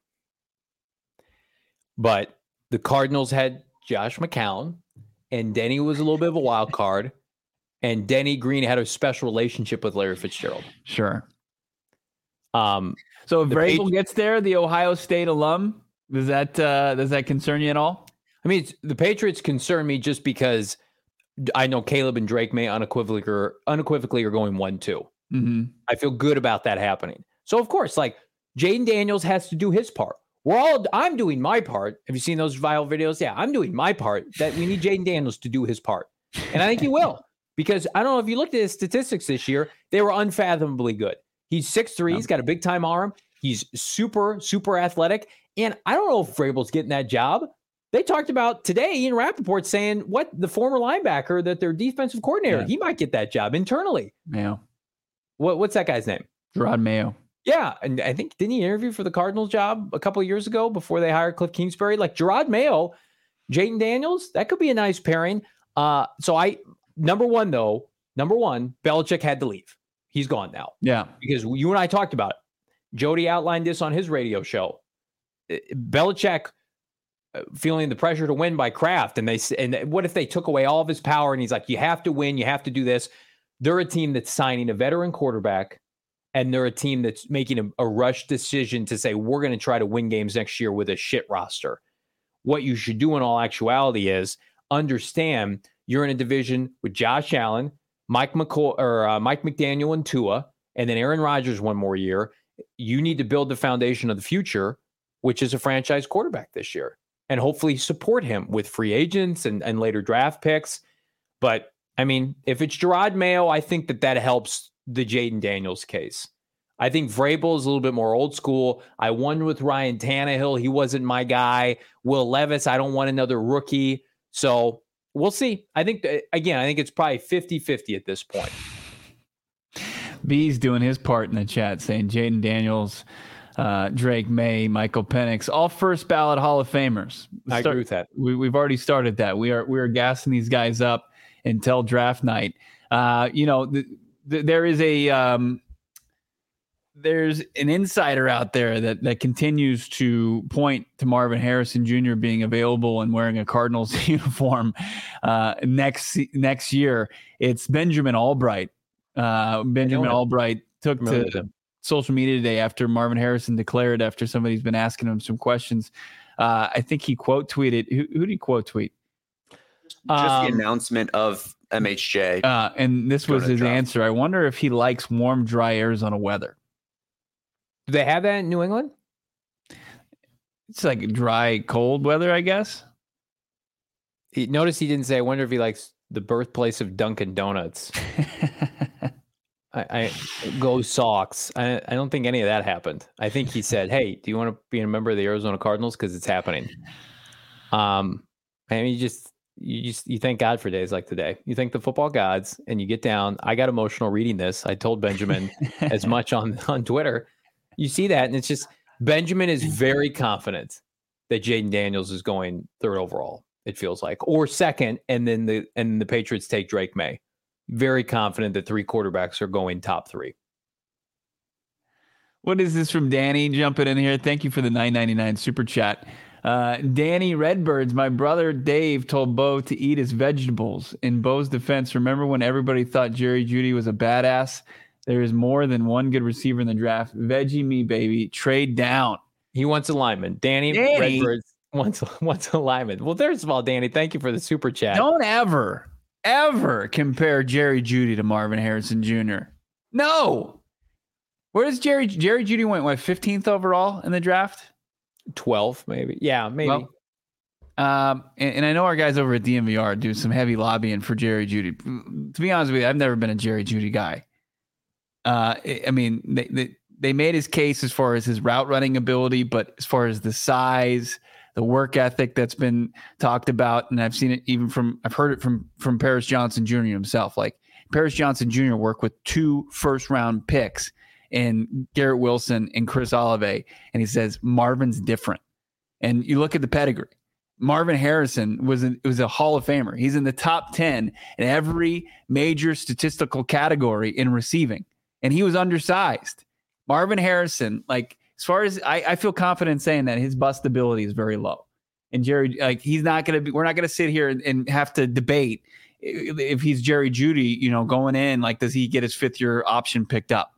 but the Cardinals had Josh McCown, and Denny was a little bit of a wild card. And Denny Green had a special relationship with Larry Fitzgerald. Sure. Um, so if the Vrabel Patri- gets there, the Ohio State alum, does that uh, does that concern you at all? I mean, it's, the Patriots concern me just because I know Caleb and Drake may unequivocally or unequivocally are going one two. Mm-hmm. I feel good about that happening. So of course, like Jaden Daniels has to do his part. We're all. I'm doing my part. Have you seen those viral videos? Yeah, I'm doing my part. That we need Jaden Daniels to do his part, and I think he will. Because I don't know if you looked at his statistics this year, they were unfathomably good. He's six three, he's got a big time arm. He's super, super athletic. And I don't know if Vrabel's getting that job. They talked about today, Ian Rappaport saying, what, the former linebacker, that their defensive coordinator, yeah. he might get that job internally. Yeah. What, what's that guy's name? Gerard Mayo. Yeah. And I think, didn't he interview for the Cardinals job a couple of years ago before they hired Cliff Kingsbury? Like Gerard Mayo, Jaden Daniels, that could be a nice pairing. Uh, so I... Number one, though, number one, Belichick had to leave. He's gone now. Yeah. Because you and I talked about it. Jody outlined this on his radio show. Belichick feeling the pressure to win by Kraft. And they and what if they took away all of his power? And he's like, you have to win. You have to do this. They're a team that's signing a veteran quarterback. And they're a team that's making a, a rush decision to say, we're going to try to win games next year with a shit roster. what you should do in all actuality is understand you're in a division with Josh Allen, Mike McCoy, or uh, Mike McDaniel and Tua, and then Aaron Rodgers one more year. You need to build the foundation of the future, which is a franchise quarterback this year, and hopefully support him with free agents and, and later draft picks. But I mean, if it's Gerard Mayo, I think that that helps the Jaden Daniels case. I think Vrabel is a little bit more old school. I won with Ryan Tannehill. He wasn't my guy. Will Levis, I don't want another rookie. So we'll see. I think, again, I think it's probably fifty-fifty at this point. B's doing his part in the chat saying Jaden Daniels, uh, Drake May, Michael Penix, all first ballot Hall of Famers. I Start, agree with that. We, we've already started that. We are we are gassing these guys up until draft night. Uh, you know, th- th- there is a um, there's an insider out there that that continues to point to Marvin Harrison Junior being available and wearing a Cardinals uniform uh, next next year. It's Benjamin Albright. Uh, Benjamin Albright took to social media today after Marvin Harrison declared, after somebody's been asking him some questions. Uh, I think he quote tweeted. Who, who did he quote tweet? Just Um, the announcement of M H J. Uh, and this was Going to his draft. answer. I wonder if he likes warm, dry Arizona weather. Do they have that in New England? It's like dry, cold weather, I guess. He, notice he didn't say, I wonder if he likes the birthplace of Dunkin' Donuts. I, I go Sox. I, I don't think any of that happened. I think he said, hey, do you want to be a member of the Arizona Cardinals? Because it's happening. Um, I mean, you just, you just, you thank God for days like today. You thank the football gods and you get down. I got emotional reading this. I told Benjamin as much on, on Twitter. You see that, and it's just, Benjamin is very confident that Jaden Daniels is going third overall, it feels like, or second, and then the and the Patriots take Drake May. Very confident that three quarterbacks are going top three. What is this from Danny jumping in here? Thank you for the nine ninety-nine super chat. Uh, Danny Redbirds, my brother Dave told Bo to eat his vegetables. In Bo's defense, remember when everybody thought Jerry Jeudy was a badass? There is more than one good receiver in the draft. Veggie me, baby. Trade down. He wants a lineman. Danny, Danny. Redbirds wants, wants a lineman. Well, first of all, Danny, thank you for the super chat. Don't ever, ever compare Jerry Jeudy to Marvin Harrison Junior No. Where does Jerry Jerry Jeudy went? What, fifteenth overall in the draft? twelve, maybe. Yeah, maybe. Well, um, and, and I know our guys over at D M V R do some heavy lobbying for Jerry Jeudy. To be honest with you, I've never been a Jerry Jeudy guy. Uh, I mean, they, they they made his case as far as his route running ability, but as far as the size, the work ethic that's been talked about, and I've seen it even from I've heard it from from Paris Johnson Junior himself. Like Paris Johnson Junior worked with two first round picks in Garrett Wilson and Chris Olave, and he says Marvin's different. And you look at the pedigree. Marvin Harrison was a, was a Hall of Famer. He's in the top ten in every major statistical category in receiving, and he was undersized. Marvin Harrison, like as far as I, I feel confident saying that his bustability is very low. And Jerry, like he's not going to be, we're not going to sit here and, and have to debate if he's Jerry Jeudy, you know, going in, like, does he get his fifth year option picked up?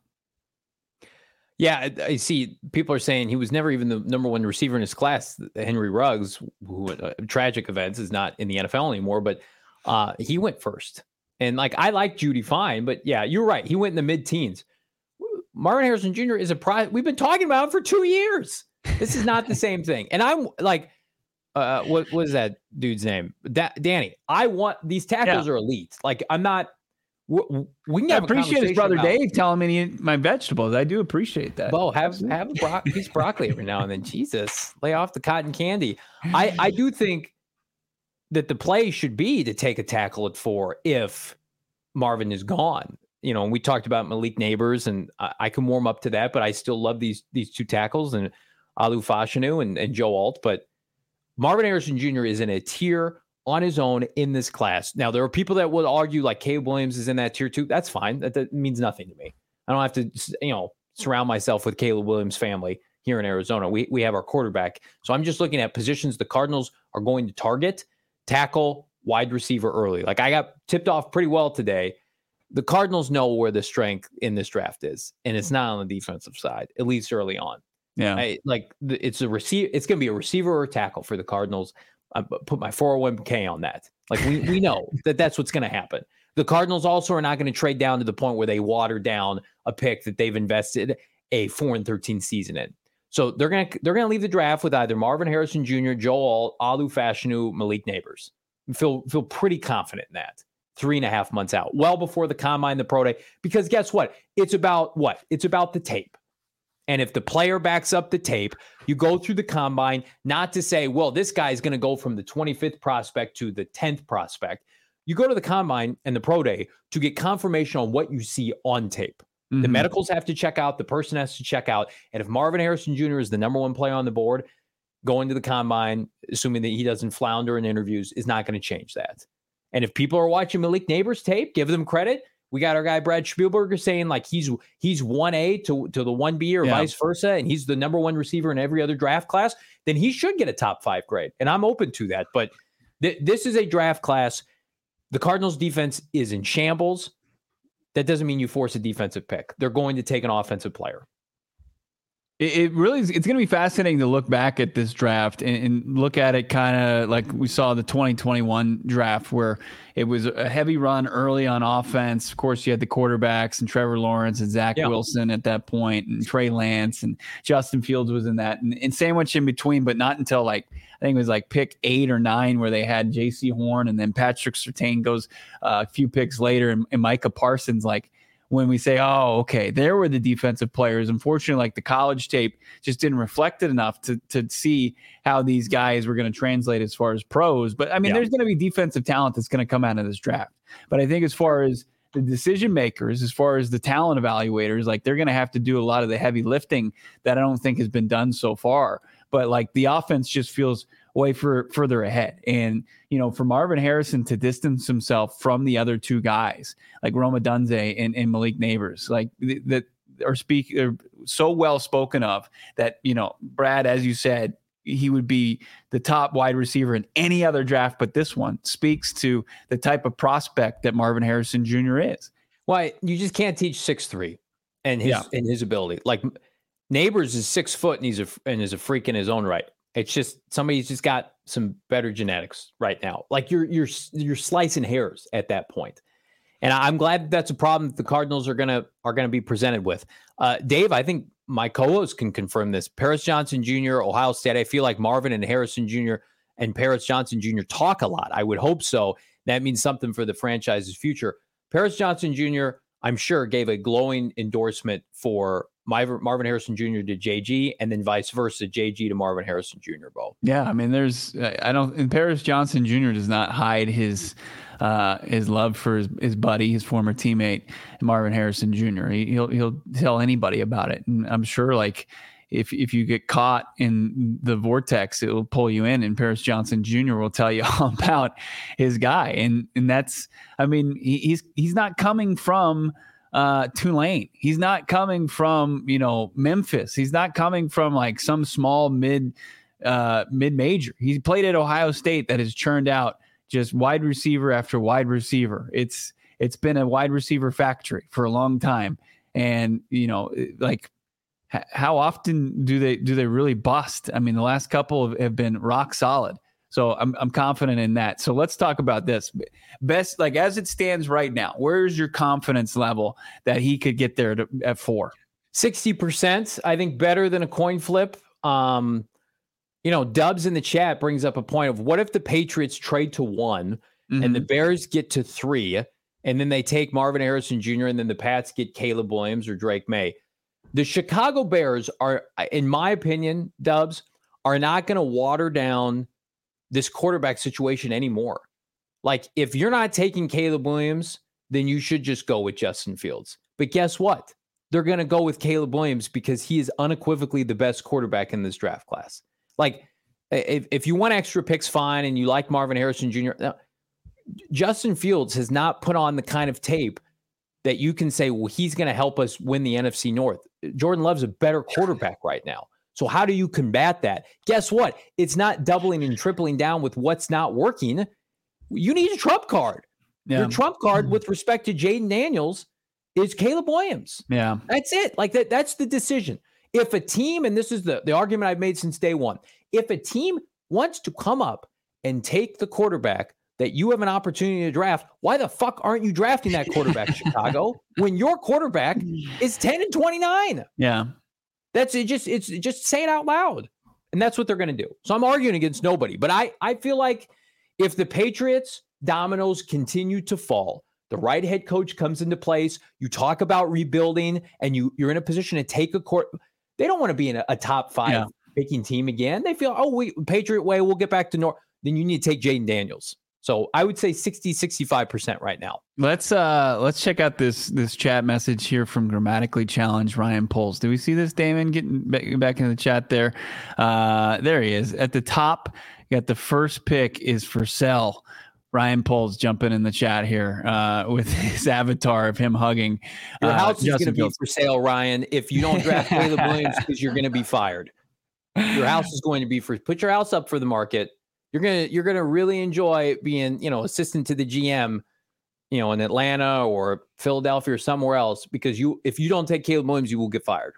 Yeah, I see people are saying he was never even the number one receiver in his class. Henry Ruggs, who uh, tragic events, is not in the N F L anymore, but uh, he went first. And like, I like Jeudy fine, but yeah, you're right. He went in the mid teens. Marvin Harrison Junior is a prize. We've been talking about him for two years. This is not the same thing. And I'm like, uh, what was that dude's name? Da- Danny. I want these tackles Yeah. are elite. Like, I'm not. We, we can I have a appreciate his brother about, Dave telling me to eat my vegetables. I do appreciate that. Bo, have have a bro- piece of broccoli every now and then. Jesus, lay off the cotton candy. I, I do think that the play should be to take a tackle at four if Marvin is gone. You know, and we talked about Malik Neighbors, and I, I can warm up to that, but I still love these these two tackles and Alu Fashanu and, and Joe Alt. But Marvin Harrison Junior is in a tier on his own in this class. Now, there are people that would argue like Caleb Williams is in that tier too. That's fine. That, that means nothing to me. I don't have to, you know, surround myself with Caleb Williams' family here in Arizona. We we have our quarterback. So I'm just looking at positions the Cardinals are going to target, tackle, wide receiver early. Like I got tipped off pretty well today. The Cardinals know where the strength in this draft is, and it's not on the defensive side, at least early on. Yeah. I, like the, it's a receiver. It's going to be a receiver or a tackle for the Cardinals. I put my four oh one k on that. Like we, we know that that's what's going to happen. The Cardinals also are not going to trade down to the point where they water down a pick that they've invested a four and thirteen season in. So they're going to, they're going to leave the draft with either Marvin Harrison Junior, Joel Alu Fashanu, Malik Neighbors. Feel, feel pretty confident in that. Three and a half months out, well before the combine, the pro day, because guess what? It's about what? It's about the tape. And if the player backs up the tape, you go through the combine, not to say, well, this guy's going to go from the twenty-fifth prospect to the tenth prospect. You go to the combine and the pro day to get confirmation on what you see on tape. Mm-hmm. The medicals have to check out. The person has to check out. And if Marvin Harrison Junior is the number one player on the board, going to the combine, assuming that he doesn't flounder in interviews, is not going to change that. And if people are watching Malik Neighbors tape, give them credit. We got our guy Brad Spielberger saying like he's he's one A to, to the one B or yeah. vice versa, and he's the number one receiver in every other draft class, then he should get a top five grade. And I'm open to that. But th- this is a draft class. The Cardinals defense is in shambles. That doesn't mean you force a defensive pick. They're going to take an offensive player. It really is. It's going to be fascinating to look back at this draft and, and look at it kind of like we saw the twenty twenty-one draft where it was a heavy run early on offense. Of course, you had the quarterbacks and Trevor Lawrence and Zach yeah. Wilson at that point, and Trey Lance and Justin Fields was in that, and, and sandwich in between, but not until like I think it was like pick eight or nine where they had J C Horn, and then Patrick Surtain goes uh, a few picks later, and, and Micah Parsons like. When we say, oh, okay, there were the defensive players. Unfortunately, like the college tape just didn't reflect it enough to to see how these guys were going to translate as far as pros. But I mean, yeah. there's going to be defensive talent that's going to come out of this draft. But I think as far as the decision makers, as far as the talent evaluators, like they're going to have to do a lot of the heavy lifting that I don't think has been done so far. But like the offense just feels way for, further ahead. And, you know, for Marvin Harrison to distance himself from the other two guys, like Rome Odunze and, and Malik Neighbors, like that are speak are so well spoken of that, you know, Brad, as you said, he would be the top wide receiver in any other draft, but this one speaks to the type of prospect that Marvin Harrison Junior is. Why you just can't teach six three and his, yeah. and his ability. Like Neighbors is six foot and he's a, and is a freak in his own right. It's just somebody's just got some better genetics right now. Like you're you're you're slicing hairs at that point, and I'm glad that that's a problem that the Cardinals are gonna are gonna be presented with. Uh, Dave, I think my co-host can confirm this. Paris Johnson Junior, Ohio State. I feel like Marvin and Harrison Junior and Paris Johnson Junior talk a lot. I would hope so. That means something for the franchise's future. Paris Johnson Junior, I'm sure, gave a glowing endorsement for Marvin Harrison Junior to J G, and then vice versa, J G to Marvin Harrison Junior Bo. Yeah, I mean, there's I don't. And Paris Johnson Junior does not hide his uh, his love for his, his buddy, his former teammate, Marvin Harrison Junior He, he'll he'll tell anybody about it, and I'm sure like if if you get caught in the vortex, it will pull you in, and Paris Johnson Junior will tell you all about his guy, and and that's I mean he, he's he's not coming from. Uh, Tulane. He's not coming from, you know, Memphis. He's not coming from like some small mid, uh, mid major. He played at Ohio State that has churned out just wide receiver after wide receiver. It's, it's been a wide receiver factory for a long time. And, you know, like h- how often do they, do they really bust? I mean, the last couple have, have been rock solid. So I'm I'm confident in that. So let's talk about this. Best, like as it stands right now, where's your confidence level that he could get there to, at four? sixty percent, I think better than a coin flip. Um, you know, Dubs in the chat brings up a point of what if the Patriots trade to one mm-hmm. and the Bears get to three and then they take Marvin Harrison Junior and then the Pats get Caleb Williams or Drake May. The Chicago Bears are, in my opinion, Dubs, are not going to water down this quarterback situation anymore. Like if you're not taking Caleb Williams, then you should just go with Justin Fields. But guess what? They're going to go with Caleb Williams because he is unequivocally the best quarterback in this draft class. Like if, if you want extra picks, fine. And you like Marvin Harrison Junior Now, Justin Fields has not put on the kind of tape that you can say, well, he's going to help us win the N F C North. Jordan Love's a better quarterback right now. So how do you combat that? Guess what? It's not doubling and tripling down with what's not working. You need a trump card. Yeah. Your trump card with respect to Jaden Daniels is Caleb Williams. Yeah. That's it. Like that. That's the decision. If a team, and this is the, the argument I've made since day one, if a team wants to come up and take the quarterback that you have an opportunity to draft, why the fuck aren't you drafting that quarterback, Chicago, when your quarterback is ten and twenty-nine? Yeah. That's it. Just, it's just say it out loud. And that's what they're going to do. So I'm arguing against nobody, but I, I feel like if the Patriots dominoes continue to fall, the right head coach comes into place, you talk about rebuilding and you, you're in a position to take a court. They don't want to be in a, a top five yeah. picking team again. They feel, oh, we Patriot way, we'll get back to North. Then you need to take Jaden Daniels. So I would say sixty, sixty-five percent right now. Let's uh let's check out this this chat message here from Grammatically Challenged Ryan Poles. Do we see this, Damon, getting back into the chat there? Uh, there he is. At the top, you got the first pick is for sale. Ryan Poles jumping in the chat here uh, with his avatar of him hugging. Your house uh, is going to be for sale, Ryan, if you don't draft Caleb Williams because you're going to be fired. Your house is going to be for, put your house up for the market. You're going to, you're going to really enjoy being, you know, assistant to the G M, you know, in Atlanta or Philadelphia or somewhere else, because you, if you don't take Caleb Williams, you will get fired.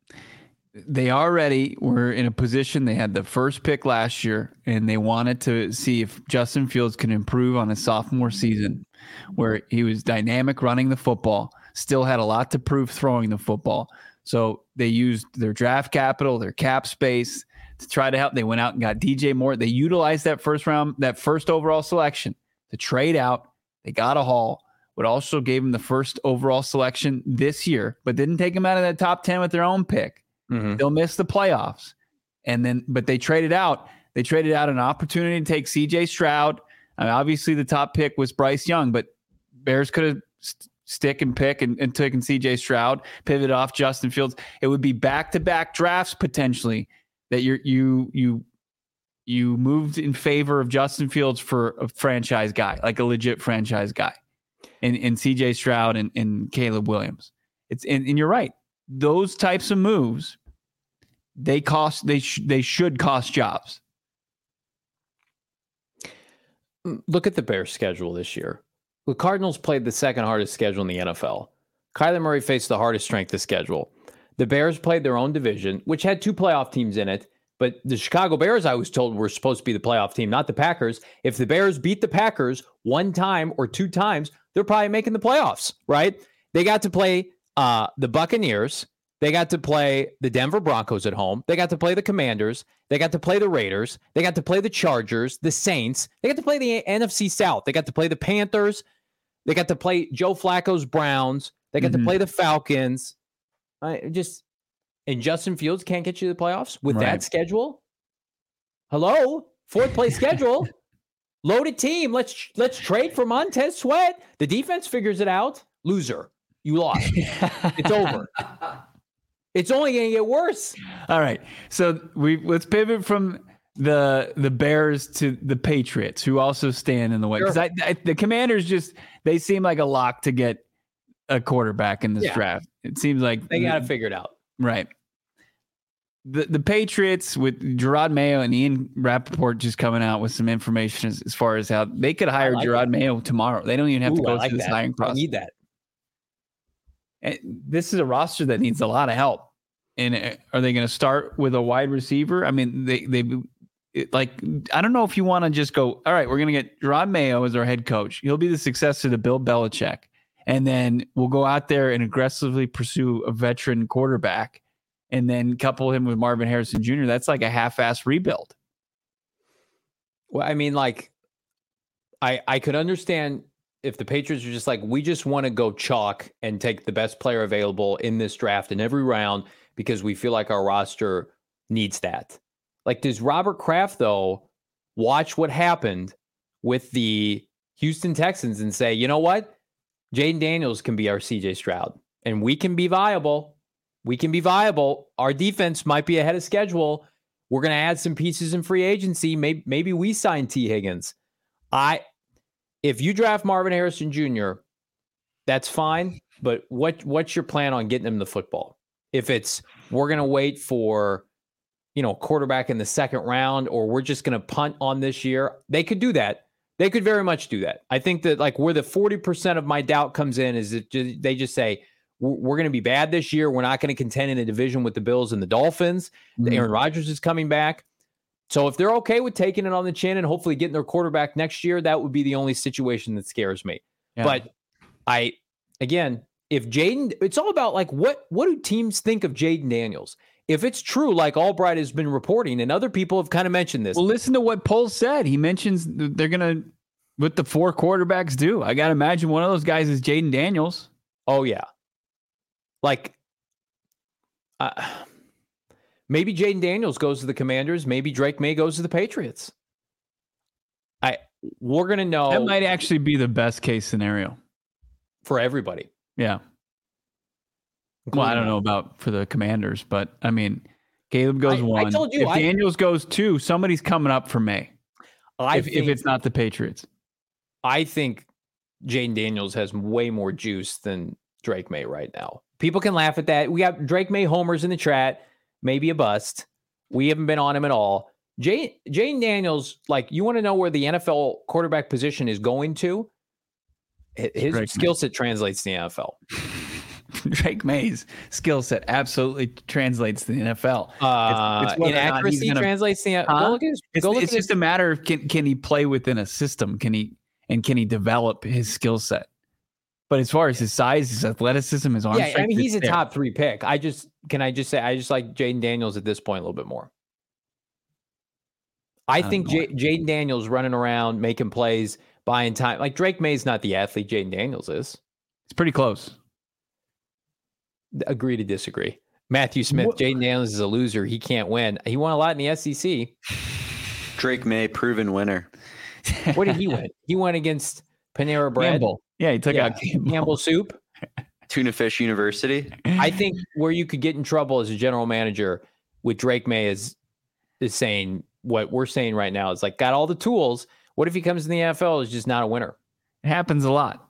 They already were in a position. They had the first pick last year, and they wanted to see if Justin Fields can improve on his sophomore season, where he was dynamic running the football, still had a lot to prove throwing the football. So they used their draft capital, their cap space to try to help. They went out and got D J Moore. They utilized that first round, that first overall selection to trade out. They got a haul, but also gave him the first overall selection this year, but didn't take him out of that top ten with their own pick. Mm-hmm. They'll miss the playoffs. And then, but they traded out. They traded out an opportunity to take C J Stroud. I mean, obviously, the top pick was Bryce Young, but Bears could have st- stick and pick and, and taken C J Stroud, pivot off Justin Fields. It would be back-to-back drafts potentially that you're, you you you moved in favor of Justin Fields for a franchise guy, like a legit franchise guy, and, and C J Stroud and, and Caleb Williams. It's and, and you're right. Those types of moves, they cost. They sh- they should cost jobs. Look at the Bears' schedule this year. The Cardinals played the second hardest schedule in the N F L. Kyler Murray faced the hardest strength of schedule. The Bears played their own division, which had two playoff teams in it. But the Chicago Bears, I was told, were supposed to be the playoff team, not the Packers. If the Bears beat the Packers one time or two times, they're probably making the playoffs, right? They got to play Uh, the Buccaneers, they got to play the Denver Broncos at home. They got to play the Commanders. They got to play the Raiders. They got to play the Chargers, the Saints. They got to play the N F C South. They got to play the Panthers. They got to play Joe Flacco's Browns. They got mm-hmm. to play the Falcons. I just and Justin Fields can't get you to the playoffs with right. that schedule. Hello, fourth place schedule, loaded team. Let's let's trade for Montez Sweat. The defense figures it out. Loser. You lost. It's over. It's only going to get worse. All right. So we let's pivot from the the Bears to the Patriots, who also stand in the way. Because sure. I, I, the Commanders just they seem like a lock to get a quarterback in this yeah. draft. It seems like they got to figure it out. Right. The the Patriots with Gerard Mayo and Ian Rappaport just coming out with some information as, as far as how they could hire like Gerard that. Mayo tomorrow. They don't even have Ooh, to go like through this hiring process. I need that. And this is a roster that needs a lot of help. And are they going to start with a wide receiver? I mean, they they it, like I don't know if you want to just go, all right, we're going to get Gerard Mayo as our head coach. He'll be the successor to Bill Belichick. And then we'll go out there and aggressively pursue a veteran quarterback and then couple him with Marvin Harrison Junior That's like a half-assed rebuild. Well, I mean, like, I I could understand if the Patriots are just like, we just want to go chalk and take the best player available in this draft in every round because we feel like our roster needs that. Like, does Robert Kraft, though, watch what happened with the Houston Texans and say, you know what? Jaden Daniels can be our C J Stroud, and we can be viable. We can be viable. Our defense might be ahead of schedule. We're going to add some pieces in free agency. Maybe, maybe we sign T. Higgins. I... If you draft Marvin Harrison Junior, that's fine. But what what's your plan on getting him the football? If it's we're going to wait for, you know, quarterback in the second round, or we're just going to punt on this year, they could do that. They could very much do that. I think that like where the forty percent of my doubt comes in is that they just say, we're, we're going to be bad this year. We're not going to contend in a division with the Bills and the Dolphins. Mm-hmm. Aaron Rodgers is coming back. So if they're okay with taking it on the chin and hopefully getting their quarterback next year, that would be the only situation that scares me. Yeah. But I, again, if Jayden, it's all about like, what, what do teams think of Jayden Daniels? If it's true, like Albright has been reporting and other people have kind of mentioned this. Well, listen to what Poles said. He mentions they're going to, what the four quarterbacks do. I got to imagine one of those guys is Jayden Daniels. Oh, yeah. Like, uh, maybe Jayden Daniels goes to the Commanders. Maybe Drake May goes to the Patriots. I We're going to know. That might actually be the best case scenario. For everybody. Yeah. Well, I don't know about for the Commanders, but I mean, Caleb goes I, one. I told you, if I, Daniels goes two, somebody's coming up for May. I if, think, if it's not the Patriots. I think Jayden Daniels has way more juice than Drake May right now. People can laugh at that. We got Drake May homers in the chat, maybe a bust. We haven't been on him at all. Jay, Jayden Daniels, like, you want to know where the N F L quarterback position is going to? His skill set translates to the N F L. Drake May's skill set absolutely translates to the N F L. Uh, it's, it's inaccuracy gonna, translates to the N F L. Huh? Go look at his, it's go look it's at just his, a matter of can, can he play within a system? Can he and can he develop his skill set? But as far as his size, his athleticism, his arm yeah, strength, I mean, he's a there. top three pick. I just can I just say I just like Jayden Daniels at this point a little bit more. I, I think J- Jayden Daniels running around making plays, buying time. Like Drake May's not the athlete Jayden Daniels is. It's pretty close. Agree to disagree. Matthew Smith, Jayden Daniels is a loser. He can't win. He won a lot in the S E C. Drake May, proven winner. What did he win? He went against Panera Bread. Campbell. Yeah, he took yeah. out Campbell. Campbell Soup. Tuna Fish University. I think where you could get in trouble as a general manager with Drake May is is saying what we're saying right now is like, got all the tools. What if he comes in the N F L is just not a winner? It happens a lot.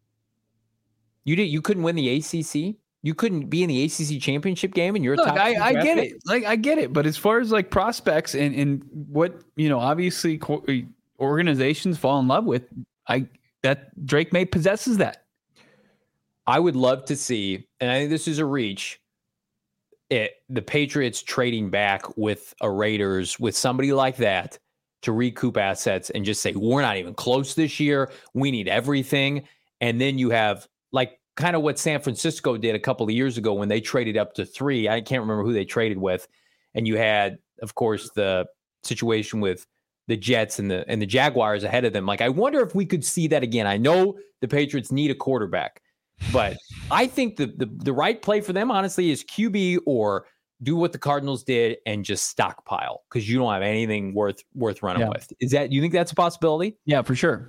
You did. You couldn't win the A C C. You couldn't be in the A C C championship game, and you're Look, a top I, I get pick? it. Like I get it, but as far as like prospects and and what you know, obviously co- organizations fall in love with, I that Drake May possesses that. I would love to see, and I think this is a reach. It the Patriots trading back with a Raiders with somebody like that to recoup assets and just say we're not even close this year. We need everything, and then you have like. Kind of what San Francisco did a couple of years ago when they traded up to three. I can't remember who they traded with. And you had, of course, the situation with the Jets and the and the Jaguars ahead of them. Like, I wonder if we could see that again. I know the Patriots need a quarterback, but I think the the, the right play for them, honestly, is Q B or do what the Cardinals did and just stockpile because you don't have anything worth worth running yeah. with. Is that you think that's a possibility? Yeah, for sure.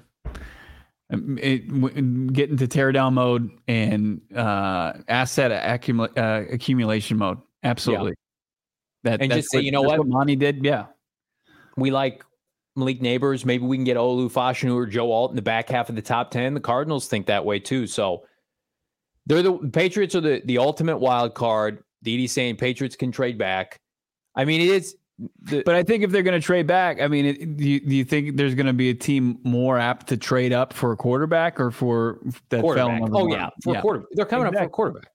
It, w- get into teardown mode and uh, asset accumula- uh, accumulation mode. Absolutely. Yeah. That and that's just say, what, you know what? what Monty did. Yeah. We like Malik Neighbors. Maybe we can get Olu Fashanu or Joe Alt in the back half of the top ten. The Cardinals think that way too. So they're the, the Patriots are the, the ultimate wild card. Didi's saying Patriots can trade back. I mean, it is. The, but I think if they're going to trade back, I mean, it, do, you, do you think there's going to be a team more apt to trade up for a quarterback or for that quarterback? Fell oh yeah, for yeah. a quarterback. They're coming exactly. up for a quarterback.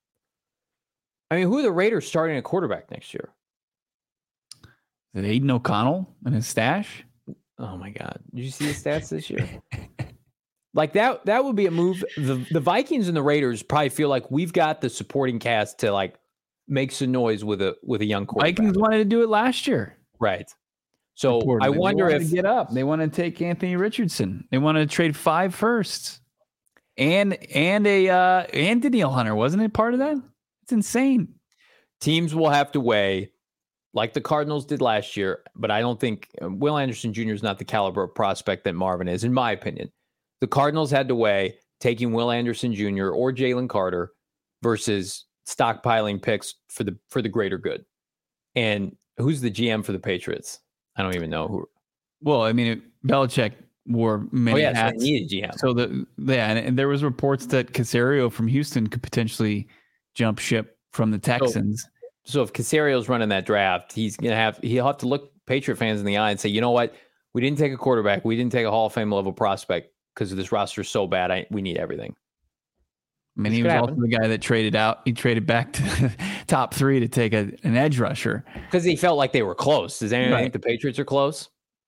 I mean, who are the Raiders starting a quarterback next year? Is it Aiden O'Connell and his stash? Oh my God! Did you see his stats this year? Like that, that would be a move. The the Vikings and the Raiders probably feel like we've got the supporting cast to like. Make some noise with a with a young quarterback. Vikings wanted to do it last year, right? So Reportedly. I wonder they if to get up. They want to take Anthony Richardson. They wanted to trade five firsts, and and a uh, and Danielle Hunter wasn't it part of that? It's insane. Teams will have to weigh, like the Cardinals did last year, but I don't think Will Anderson Junior is not the caliber of prospect that Marvin is, in my opinion. The Cardinals had to weigh taking Will Anderson Junior or Jalen Carter versus stockpiling picks for the for the greater good. And who's the G M for the Patriots? I don't even know who. Well, I mean, it, Belichick wore many oh, yeah, hats. So he needed G M. So the yeah, and, and there was reports that Caserio from Houston could potentially jump ship from the Texans. So, so if Casario's running that draft, he's gonna have he'll have to look Patriot fans in the eye and say, you know what, we didn't take a quarterback, we didn't take a Hall of Fame level prospect because this roster is so bad. I we need everything. I mean, This he could was happen. also the guy that traded out. He traded back to top three to take a, an edge rusher. Because he felt like they were close. Does anyone Right. think the Patriots are close?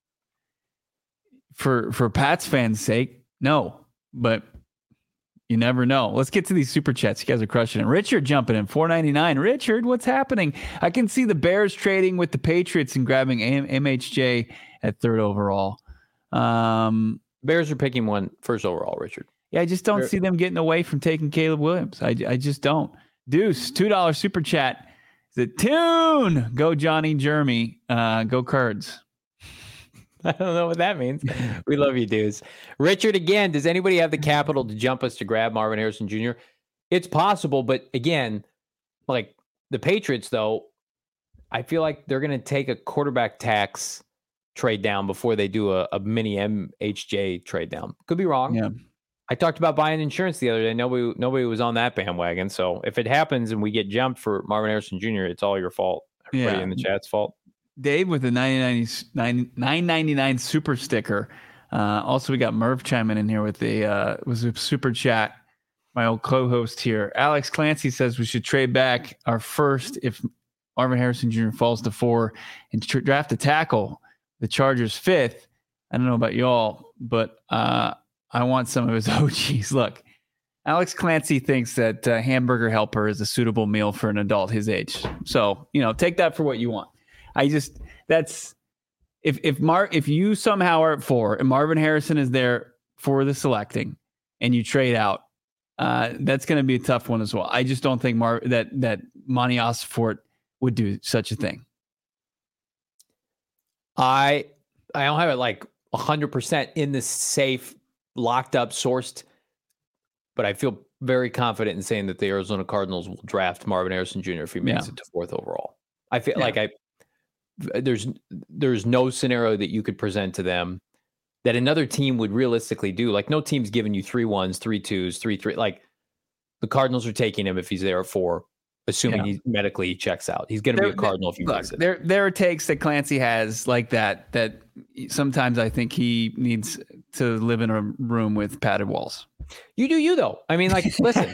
For for Pats fans' sake, no. But you never know. Let's get to these super chats. You guys are crushing it. Richard jumping in, four ninety-nine. Richard, what's happening? I can see the Bears trading with the Patriots and grabbing M H J at third overall. Um, Bears are picking one first overall, Richard. yeah, I just don't Bear- see them getting away from taking Caleb Williams. I, I just don't. Deuce, two dollars super chat. The tune. Go Johnny Jeremy. Uh, go Cards. I don't know what that means. We love you, dudes. Richard, again, does anybody have the capital to jump us to grab Marvin Harrison Junior? It's possible, but again, like the Patriots, though, I feel like they're going to take a quarterback tax trade down before they do a, a mini M H J trade down. Could be wrong. Yeah. I talked about buying insurance the other day. Nobody, nobody was on that bandwagon. So if it happens and we get jumped for Marvin Harrison Junior, it's all your fault. Everybody Yeah. in the chat's fault. Dave with the nine ninety-nine super sticker. Uh, also, we got Merv chiming in here with the uh, was a super chat. My old co-host here, Alex Clancy, says we should trade back our first if Marvin Harrison Junior falls to four and tr- draft a tackle. The Chargers fifth. I don't know about y'all, but uh, I want some of his O Gs. Look, Alex Clancy thinks that uh, Hamburger Helper is a suitable meal for an adult his age. So, you know, take that for what you want. I just that's if if Mar if you somehow are at four and Marvin Harrison is there for the selecting and you trade out, uh, that's going to be a tough one as well. I just don't think Mar that that Monty Osfort would do such a thing. I I don't have it like one hundred percent in the safe, locked up, sourced, but I feel very confident in saying that the Arizona Cardinals will draft Marvin Harrison Junior if he makes Yeah. it to fourth overall. I feel Yeah. like I there's there's no scenario that you could present to them that another team would realistically do. Like no team's giving you three ones, three twos, three three. Like the Cardinals are taking him if he's there at four, assuming Yeah. he medically he checks out. He's going to be a There- Cardinal if he Look, makes it. there there are takes that Clancy has like that that sometimes I think he needs to live in a room with padded walls. You do you though. I mean, like, listen,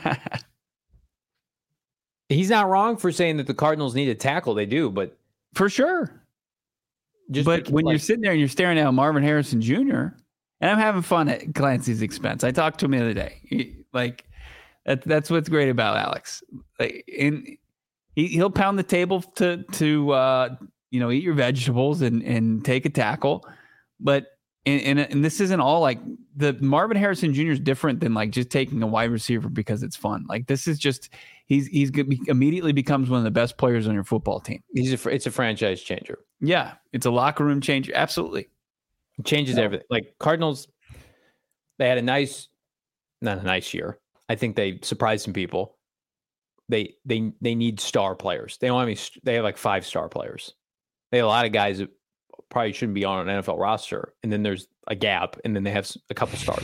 he's not wrong for saying that the Cardinals need a tackle. They do, but For sure. just But because, when you're like, sitting there and you're staring at Marvin Harrison Junior, and I'm having fun at Clancy's expense. I talked to him the other day. He- like that, that's what's great about Alex. Like, in he, he'll pound the table to to uh, you know eat your vegetables and and take a tackle. But and, and and this isn't all like the Marvin Harrison Junior is different than like just taking a wide receiver because it's fun. Like this is just he's he's good, he immediately becomes one of the best players on your football team. he's a fr- it's a franchise changer. Yeah, it's a locker room changer. Absolutely. It changes Yeah. everything. Like Cardinals, they had a nice, not a nice year. I think they surprised some people. They they they need star players. They don't have any. st- They have like five star players. They have a lot of guys that probably shouldn't be on an N F L roster, and then there's a gap, and then they have s- a couple stars.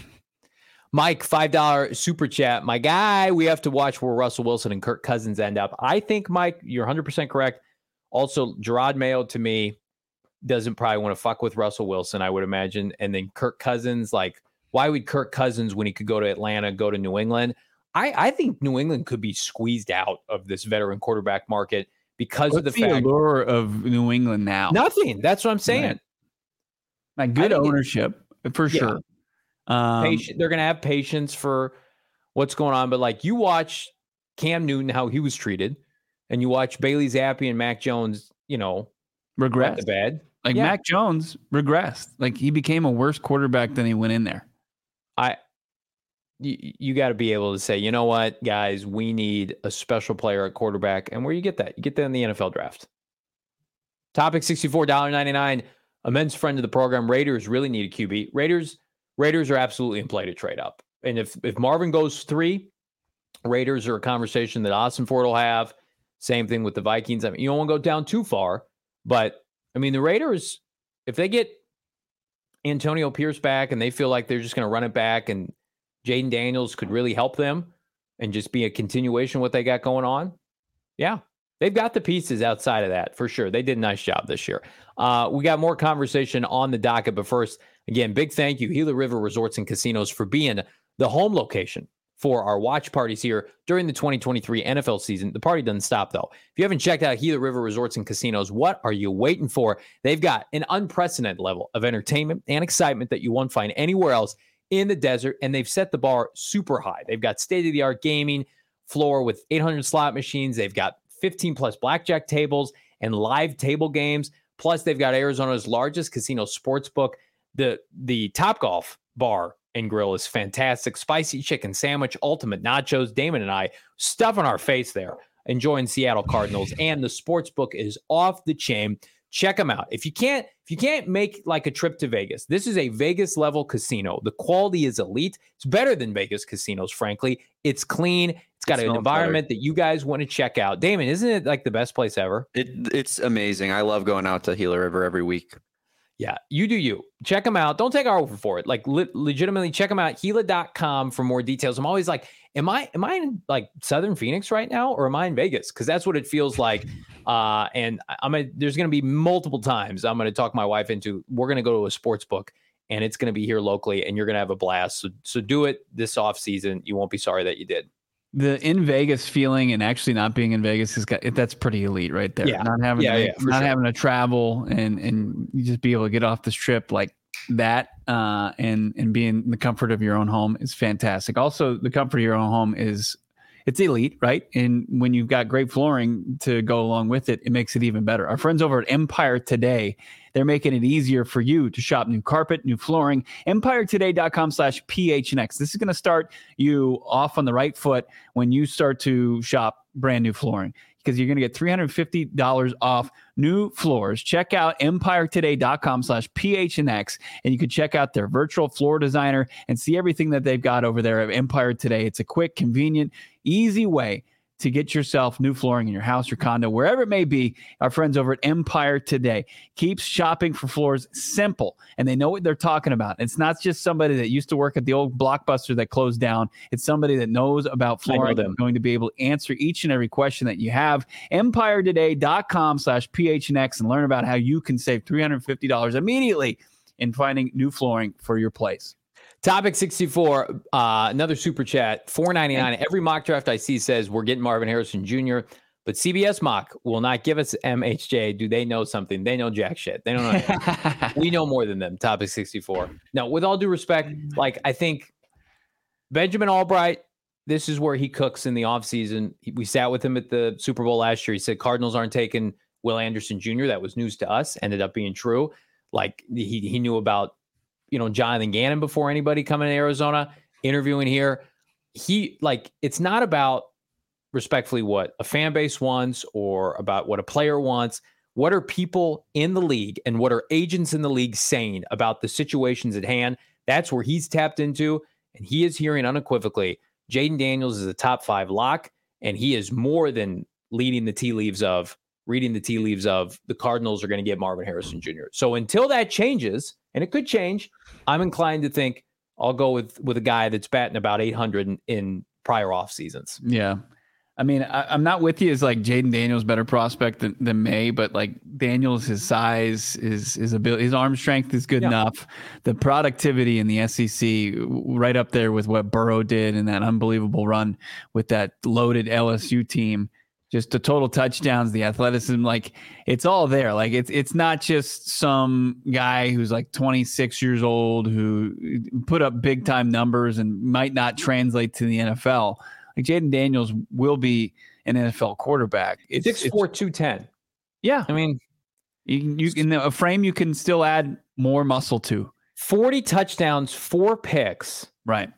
Mike, five dollar super chat. My guy, we have to watch where Russell Wilson and Kirk Cousins end up. I think, Mike, you're one hundred percent correct. Also, Gerard Mayo, to me, doesn't probably want to fuck with Russell Wilson, I would imagine. And then Kirk Cousins, like, why would Kirk Cousins, when he could go to Atlanta, go to New England? I, I think New England could be squeezed out of this veteran quarterback market because What's of the the fact allure of New England now? nothing. That's what I'm saying. Right. Like good I think it- ownership for Yeah. sure. Um, Patient, they're going to have patience for what's going on. But like you watch Cam Newton, how he was treated, and you watch Bailey Zappi and Mac Jones, you know, wet regressed. the bed. Like Yeah. Mac Jones regressed. Like he became a worse quarterback than he went in there. I, you, you got to be able to say, you know what, guys, we need a special player at quarterback. And where you get that? You get that in the N F L draft. Topic sixty-four ninety-nine. Immense friend of the program. Raiders really need a Q B. Raiders, Raiders are absolutely in play to trade up. And if if Marvin goes three, Raiders are a conversation that Austin Ford will have. Same thing with the Vikings. I mean, you don't want to go down too far, but I mean, the Raiders, if they get Antonio Pierce back and they feel like they're just going to run it back and Jaden Daniels could really help them and just be a continuation of what they got going on. Yeah, they've got the pieces outside of that for sure. They did a nice job this year. Uh, we got more conversation on the docket, but first, again, big thank you, Gila River Resorts and Casinos, for being the home location for our watch parties here during the twenty twenty-three N F L season. The party doesn't stop, though. If you haven't checked out Gila River Resorts and Casinos, what are you waiting for? They've got an unprecedented level of entertainment and excitement that you won't find anywhere else in the desert, and they've set the bar super high. They've got state-of-the-art gaming floor with eight hundred slot machines. They've got fifteen plus blackjack tables and live table games. Plus, they've got Arizona's largest casino sports book. The, the Topgolf bar and grill is fantastic. Spicy chicken sandwich, ultimate nachos. Damon and I stuffing our face there, enjoying Seattle Cardinals, and the sports book is off the chain. Check them out. If you can't, if you can't make like a trip to Vegas, this is a Vegas level casino. The quality is elite. It's better than Vegas casinos, frankly. It's clean. It's got it an environment better. That you guys want to check out. Damon, isn't it like the best place ever? It, it's amazing. I love going out to Gila River every week. Yeah, you do you. Check them out. Don't take our word for it. Like le- legitimately check them out. Gila dot com for more details. I'm always like, am I am I in like Southern Phoenix right now, or am I in Vegas? Because that's what it feels like. Uh, and I'm a, there's going to be multiple times I'm going to talk my wife into. We're going to go to a sports book, and it's going to be here locally, and you're going to have a blast. So so do it this off season. You won't be sorry that you did. The in Vegas feeling and actually not being in Vegas is got that's pretty elite right there. Yeah. Not having yeah, to, yeah, not sure. having to travel and and you just be able to get off this trip like that uh, and and be in the comfort of your own home is fantastic. Also, the comfort of your own home is it's elite, right? And when you've got great flooring to go along with it, it makes it even better. Our friends over at Empire Today, they're making it easier for you to shop new carpet, new flooring. Empire Today dot com slash P H N X. This is going to start you off on the right foot when you start to shop brand new flooring, because you're going to get three hundred fifty dollars off new floors. Check out Empire Today dot com slash P H N X, and you can check out their virtual floor designer and see everything that they've got over there at Empire Today. It's a quick, convenient, easy way to get yourself new flooring in your house or condo, wherever it may be. Our friends over at Empire Today keeps shopping for floors simple, and they know what they're talking about. It's not just somebody that used to work at the old Blockbuster that closed down. It's somebody that knows about flooring and going to be able to answer each and every question that you have. Empire Today dot com slash P H N X and learn about how you can save three hundred fifty dollars immediately in finding new flooring for your place. Topic sixty-four, uh, another super chat, four ninety-nine. Every mock draft I see says we're getting Marvin Harrison Junior, but C B S mock will not give us M H J. Do they know something? They know jack shit. They don't know anything. We know more than them. Topic sixty-four. Now, with all due respect, like I think Benjamin Albright, this is where he cooks in the offseason. We sat with him at the Super Bowl last year. He said Cardinals aren't taking Will Anderson Junior That was news to us. Ended up being true. Like he he knew about, you know, Jonathan Gannon before anybody coming to Arizona, interviewing here. He like, it's not about respectfully what a fan base wants or about what a player wants. What are people in the league and what are agents in the league saying about the situations at hand? That's where he's tapped into. And he is hearing unequivocally, Jayden Daniels is a top five lock. And he is more than leading the tea leaves of reading the tea leaves of the Cardinals are going to get Marvin Harrison Junior So until that changes, and it could change, I'm inclined to think I'll go with with a guy that's batting about eight hundred in, in prior off seasons. Yeah. I mean, I, I'm not with you as like Jayden Daniels better prospect than, than May, but like Daniels, his size, his his ability, his arm strength is good yeah. enough. The productivity in the S E C right up there with what Burrow did in that unbelievable run with that loaded L S U team. Just the total touchdowns, the athleticism, like it's all there. Like it's it's not just some guy who's like twenty-six years old who put up big time numbers and might not translate to the N F L. Like Jayden Daniels will be an N F L quarterback. It's six four, two ten. Yeah, I mean, you you in a frame you can still add more muscle to. forty touchdowns, four picks, right?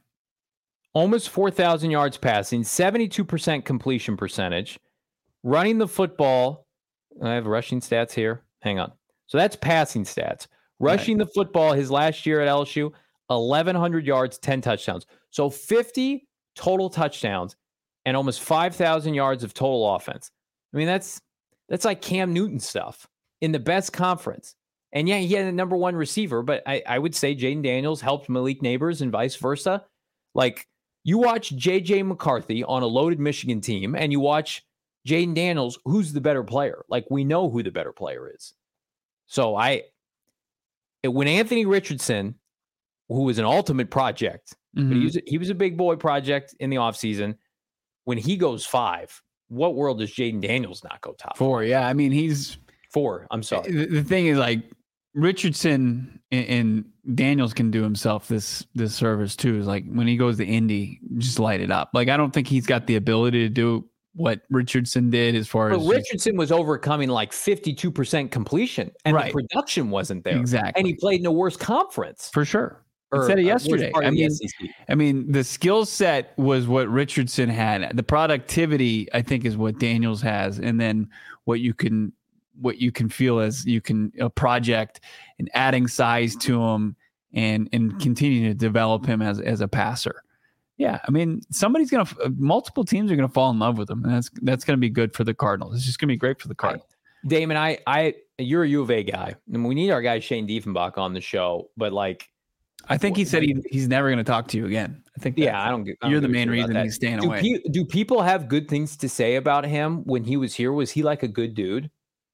Almost four thousand yards passing, seventy-two percent completion percentage. Running the football, I have rushing stats here. Hang on. So that's passing stats. Rushing right. the football, his last year at L S U, eleven hundred yards, ten touchdowns. So fifty total touchdowns and almost five thousand yards of total offense. I mean, that's that's like Cam Newton stuff in the best conference. And yeah, he had a number one receiver, but I, I would say Jayden Daniels helped Malik Neighbors and vice versa. Like, you watch J J McCarthy on a loaded Michigan team, and you watch Jayden Daniels, who's the better player? Like, we know who the better player is. So I, when Anthony Richardson who was an ultimate project. Mm-hmm. But he was, he was a big boy project in the offseason. When he goes five, what world does Jaden Daniels not go top four? Five? Yeah, I mean, he's four. I'm sorry. The, the thing is, like, Richardson and, and Daniels can do himself this this service too. Is like when he goes to Indy, just light it up. Like, I don't think he's got the ability to do what Richardson did as far but as Richardson was overcoming like fifty-two percent completion, and right. the production wasn't there. Exactly, and he played in a worse conference for sure. Or, I said it uh, yesterday. I mean, I mean, the skill set was what Richardson had. The productivity, I think, is what Daniels has, and then what you can, what you can feel as you can a project and adding size to him and and continuing to develop him as as a passer. Yeah, I mean, somebody's gonna, multiple teams are gonna fall in love with him, and that's that's gonna be good for the Cardinals. It's just gonna be great for the Cardinals. I, Damon, I, I, you're a U of A guy, and we need our guy Shane Diefenbach on the show, but like. I think he said he, he's never going to talk to you again. I think. Yeah, I don't. I don't you're the main reason he's staying do away. Pe- do people have good things to say about him when he was here? Was he like a good dude?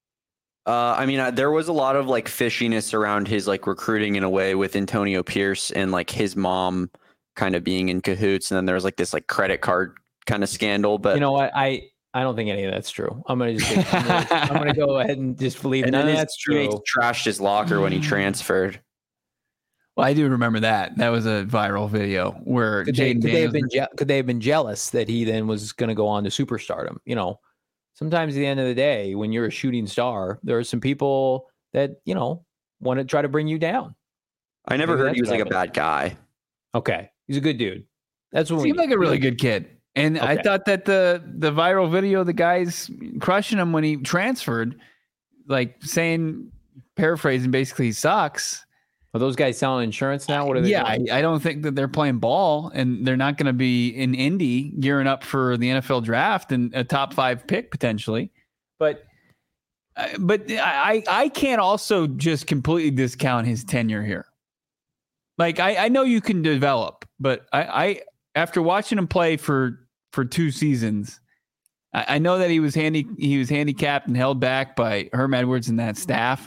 Uh, I mean, uh, there was a lot of like fishiness around his like recruiting in a way with Antonio Pierce and like his mom kind of being in cahoots, and then there was like this like credit card kind of scandal. But you know what, I I don't think any of that's true. I'm gonna just I'm gonna, I'm gonna go ahead and just believe none of that's true. He trashed his locker when he transferred. Well, I do remember that. That was a viral video where could they, Jaden could, they have Daniels. been je- could they have been jealous that he then was going to go on to superstardom? You know, sometimes at the end of the day, when you're a shooting star, there are some people that, you know, want to try to bring you down. I never Maybe heard he was what like a bad guy. Okay, he's a good dude. That's what we Seemed like a really good kid. And I Okay. thought that the the viral video, the guys crushing him when he transferred, like saying, paraphrasing, basically he sucks. Are those guys selling insurance now? What are they Yeah, I, doing? I don't think that they're playing ball, and they're not going to be in Indy gearing up for the N F L draft and a top five pick potentially. But, uh, but I I can't also just completely discount his tenure here. Like I, I know you can develop, but I, I after watching him play for for two seasons, I, I know that he was handy he was handicapped and held back by Herm Edwards and that staff,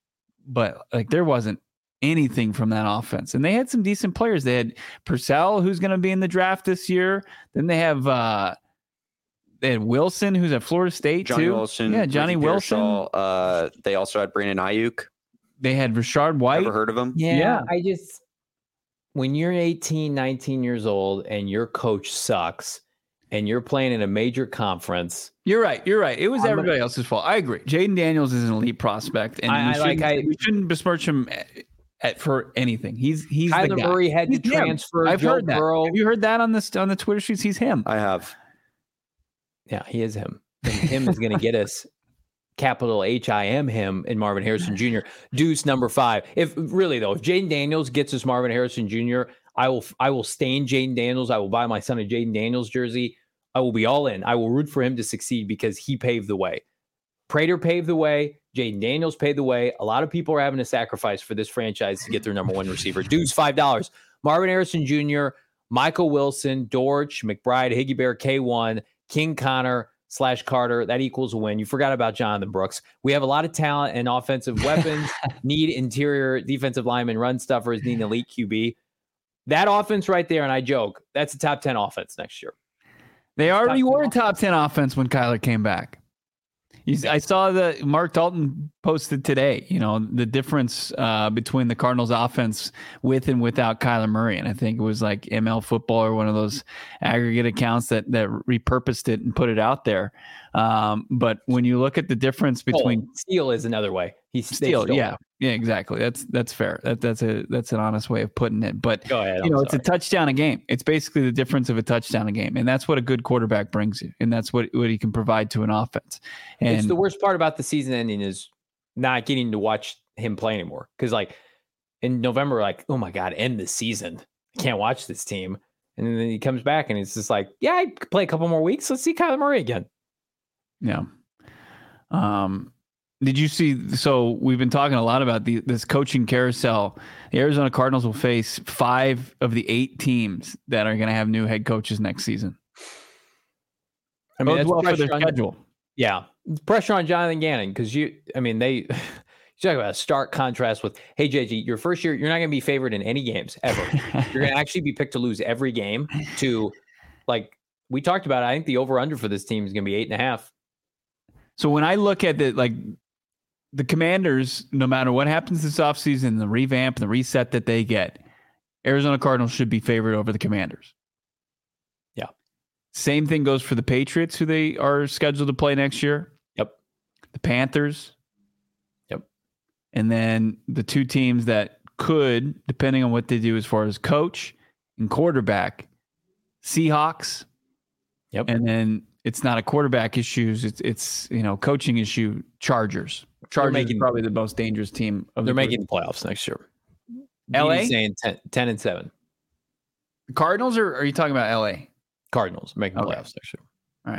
but like there wasn't anything from that offense. And they had some decent players. They had Purcell, who's going to be in the draft this year. Then they have uh, they had Wilson, who's at Florida State Johnny too. Wilson. Yeah, Johnny Ricky Wilson. Pearsall. Uh, they also had Brandon Ayuk. They had Rashard White. Ever heard of him? Yeah, Yeah. I just when you're eighteen, nineteen years old and your coach sucks and you're playing in a major conference. You're right. You're right. It was I'm everybody gonna, else's fault. I agree. Jaden Daniels is an elite prospect, and I- we, I shouldn't, like- I- we shouldn't besmirch him at, at, for anything. He's he's the Kyler guy. Murray had He's to him. transfer. I've Joe heard that. Burrow. Have you heard that on this on the Twitter streets? He's him. I have. Yeah, he is him. And him is going to get us capital H I M him and Marvin Harrison Junior Deuce number five. If really though, if Jaden Daniels gets us Marvin Harrison Junior, I will I will stain Jaden Daniels. I will buy my son a Jaden Daniels jersey. I will be all in. I will root for him to succeed because he paved the way. Prater paved the way. Jaden Daniels paved the way. A lot of people are having to sacrifice for this franchise to get their number one receiver. Deuce five dollars. Marvin Harrison Junior, Michael Wilson, Dortch, McBride, Higgy Bear, K one, King Connor slash Carter. That equals a win. You forgot about Jonathan Brooks. We have a lot of talent and offensive weapons. Need interior defensive linemen, run stuffers. Need an elite Q B. That offense right there, and I joke, that's a top ten offense next year. They already top were a top ten offense when Kyler came back. He's, I saw that Mark Dalton posted today, you know, the difference uh, between the Cardinals offense with and without Kyler Murray. And I think it was like M L Football or one of those aggregate accounts that, that repurposed it and put it out there. Um, but when you look at the difference between oh, steal is another way. He's steal. Yeah. Yeah, exactly. That's, that's fair. That, that's a, that's an honest way of putting it, but Go ahead, you I'm know, sorry. it's a touchdown a game. It's basically the difference of a touchdown a game. And that's what a good quarterback brings you. And that's what, what he can provide to an offense. And It's the worst part about the season ending is not getting to watch him play anymore. Because like in November, like, oh my God, end the season. I can't watch this team. And then he comes back and it's just like, yeah, I could play a couple more weeks. Let's see Kyler Murray again. yeah. Um, did you see? So we've been talking a lot about the, this coaching carousel. The Arizona Cardinals will face five of the eight teams that are going to have new head coaches next season. I mean, Bodes that's well for their pressure on, schedule. yeah, it's pressure on Jonathan Gannon because you, I mean, they You talk about a stark contrast with, hey, J G, your first year, you're not going to be favored in any games ever. You're going to actually be picked to lose every game. To, like we talked about, I think the over-under for this team is going to be eight and a half. So when I look at the, like the Commanders, no matter what happens this offseason, the revamp, the reset that they get, Arizona Cardinals should be favored over the Commanders. Yeah. Same thing goes for the Patriots, who they are scheduled to play next year. Yep. The Panthers. Yep. And then the two teams that could, depending on what they do as far as coach and quarterback, Seahawks. Yep. And then it's not a quarterback issue. It's, it's you know, coaching issue, Chargers. Chargers making, is probably the most dangerous team of They're the making the playoffs next year. L A? Saying ten, ten and seven. The Cardinals, or are you talking about L A? Cardinals making Okay. playoffs next year. All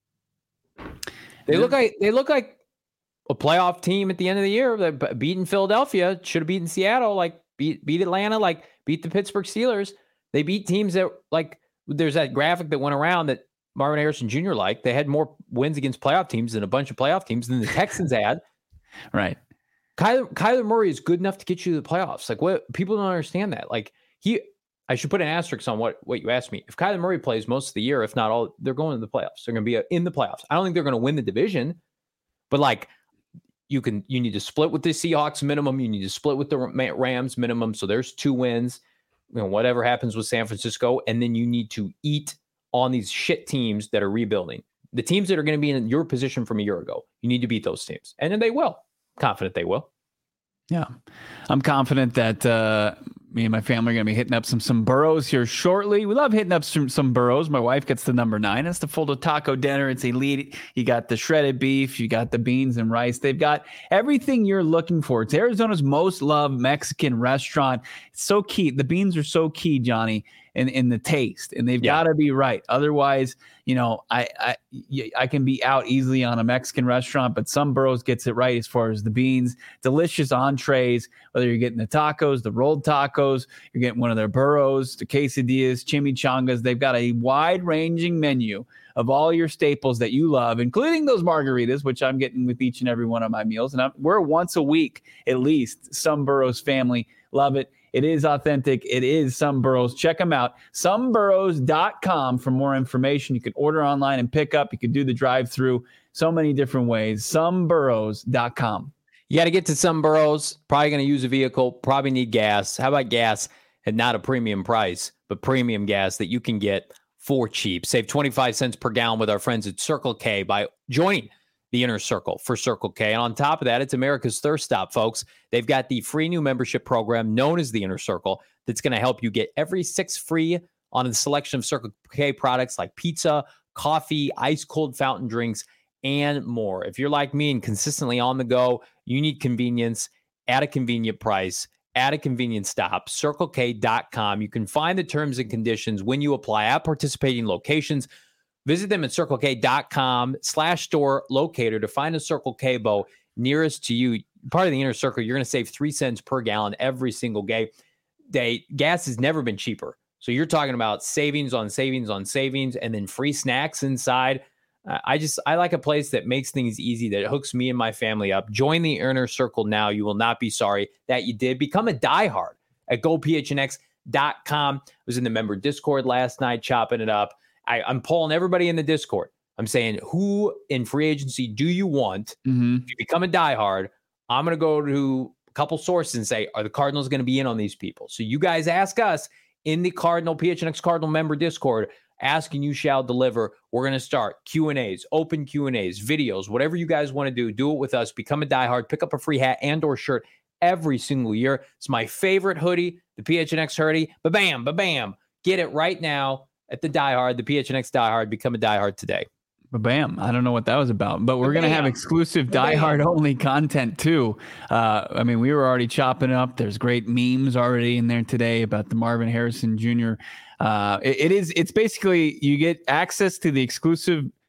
right. They look like they look like a playoff team at the end of the year. They beaten Philadelphia, should have beaten Seattle, like beat beat Atlanta, like beat the Pittsburgh Steelers. They beat teams that, like, there's that graphic that went around that Marvin Harrison Junior liked. They had more wins against playoff teams than a bunch of playoff teams than the Texans had. Right. Kyler, Kyler Murray is good enough to get you to the playoffs. Like, what, people don't understand that. Like, he, I should put an asterisk on what, what you asked me. If Kyler Murray plays most of the year, if not all, they're going to the playoffs. They're going to be in the playoffs. I don't think they're going to win the division, but like, you can, you need to split with the Seahawks minimum. You need to split with the Rams minimum. So there's two wins, you know, whatever happens with San Francisco. And then you need to eat on these shit teams that are rebuilding. The teams that are going to be in your position from a year ago, you need to beat those teams. And then they will. Confident they will. Yeah. I'm confident that uh, me and my family are going to be hitting up some some burros here shortly. We love hitting up some, some burros. My wife gets the number nine. It's the full taco dinner. It's elite. You got the shredded beef. You got the beans and rice. They've got everything you're looking for. It's Arizona's most loved Mexican restaurant. It's so key. The beans are so key, Johnny, in, in the taste, and they've Yeah. got to be right. Otherwise, you know, I, I I can be out easily on a Mexican restaurant, but some burros gets it right as far as the beans. Delicious entrees, whether you're getting the tacos, the rolled tacos, you're getting one of their burros, the quesadillas, chimichangas. They've got a wide-ranging menu of all your staples that you love, including those margaritas, which I'm getting with each and every one of my meals. And I'm, we're once a week, at least, Some Burros family. Love it. It is authentic. It is Some Burros. Check them out. some burros dot com for more information. You can order online and pick up. You can do the drive-through. So many different ways. some burros dot com. You got to get to Some Burros. Probably going to use a vehicle. Probably need gas. How about gas at not a premium price, but premium gas that you can get for cheap? Save twenty-five cents per gallon with our friends at Circle K by joining the Inner Circle for Circle K. And on top of that, it's America's Thirst Stop, folks. They've got the free new membership program known as the Inner Circle that's going to help you get every six free on a selection of Circle K products like pizza, coffee, ice cold fountain drinks, and more. If you're like me and consistently on the go, you need convenience at a convenient price, at a convenient stop, circle k dot com. You can find the terms and conditions when you apply at participating locations. Visit them at circle k dot com slash store locator to find a Circle K Bo nearest to you. Part of the Inner Circle, you're going to save three cents per gallon every single day. Day. Gas has never been cheaper. So you're talking about savings on savings on savings and then free snacks inside. Uh, I just, I like a place that makes things easy, that hooks me and my family up. Join the Inner Circle now. You will not be sorry that you did. Become a diehard at go p h n x dot com. I was in the member Discord last night, chopping it up. I, I'm polling everybody in the Discord. I'm saying, who in free agency do you want? Mm-hmm. If you become a diehard, I'm going to go to a couple sources and say, are the Cardinals going to be in on these people? So you guys ask us in the Cardinal, P H N X Cardinal member Discord. Ask and you shall deliver. We're going to start Q and A's, open Q and A's, videos, whatever you guys want to do. Do it with us. Become a diehard. Pick up a free hat and or shirt every single year. It's my favorite hoodie, the P H N X hoodie. Ba-bam, ba-bam. Get it right now at the diehard, the P H N X diehard. Become a diehard today. Bam. I don't know what that was about, but we're going to have exclusive Ba-bam. diehard only content too. Uh, I mean, we were already chopping up. There's great memes already in there today about the Marvin Harrison Junior Uh, it, it is, it's basically, you get access to the exclusive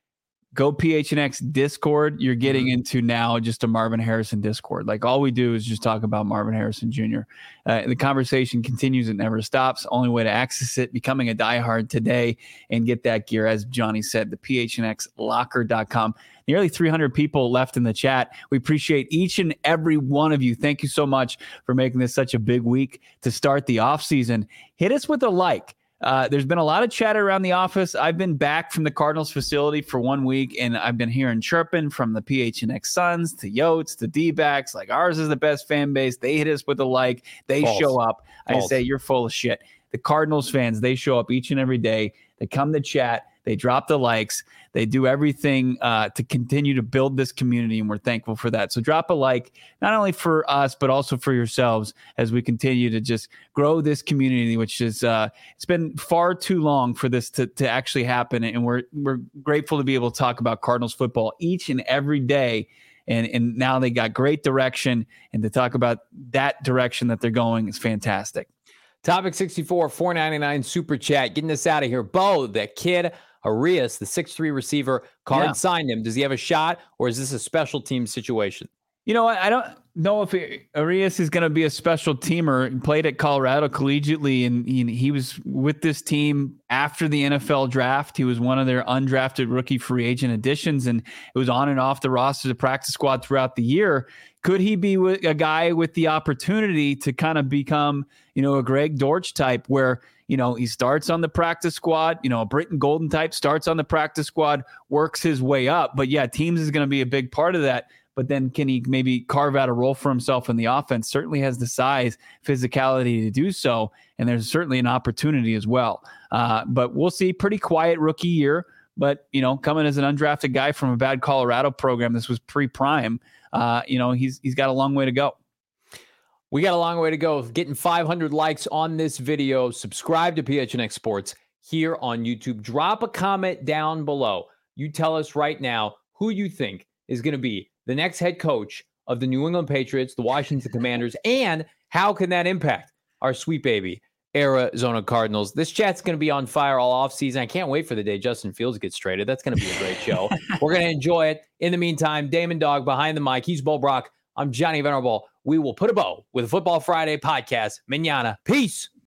go P H N X Discord. You're getting mm-hmm. into now just a Marvin Harrison Discord. Like all we do is just talk about Marvin Harrison Junior Uh, the conversation continues. It never stops. Only way to access it, becoming a diehard today and get that gear. As Johnny said, the P H N X locker dot com. Nearly three hundred people left in the chat. We appreciate each and every one of you. Thank you so much for making this such a big week to start the off season. Hit us with a like. Uh, there's been a lot of chatter around the office. I've been back from the Cardinals facility for one week, and I've been hearing chirping from the P H N X Suns to Yotes to D-backs. Like, ours is the best fan base. They hit us with a like. They False. show up. False. I say, you're full of shit. The Cardinals fans, they show up each and every day. They come to chat. They drop the likes. They do everything uh, to continue to build this community, and we're thankful for that. So drop a like, not only for us, but also for yourselves as we continue to just grow this community, which is uh, it's been far too long for this to, to actually happen. And we're we're grateful to be able to talk about Cardinals football each and every day. And, and now they got great direction, and to talk about that direction that they're going is fantastic. Topic sixty-four, four ninety-nine super chat. Getting us out of here. Bo, that kid, Arias, the six three receiver, Card yeah. signed him. Does he have a shot, or is this a special team situation? You know, I don't know if it, Arias is going to be a special teamer. He played at Colorado collegiately, and he, he was with this team after the N F L draft. He was one of their undrafted rookie free agent additions, and it was on and off the roster, the practice squad throughout the year. Could he be a guy with the opportunity to kind of become, you know, a Greg Dortch type where, you know, he starts on the practice squad, you know, a Britton Golden type, starts on the practice squad, works his way up. But yeah, teams is going to be a big part of that. But then can he maybe carve out a role for himself in the offense? Certainly has the size, physicality to do so. And there's certainly an opportunity as well. Uh, but we'll see. Pretty quiet rookie year. But, you know, coming as an undrafted guy from a bad Colorado program, this was pre-prime. Uh, you know, he's he's got a long way to go. We got a long way to go. Getting five hundred likes on this video. Subscribe to P H N X Sports here on YouTube. Drop a comment down below. You tell us right now who you think is going to be the next head coach of the New England Patriots, the Washington Commanders, and how can that impact our sweet baby Arizona Cardinals. This chat's going to be on fire all offseason. I can't wait for the day Justin Fields gets traded. That's going to be a great show. We're going to enjoy it. In the meantime, Damon Dog behind the mic. He's Bo Brock. I'm Johnny Venerable. We will put a bow with a Football Friday podcast. Mañana. Peace.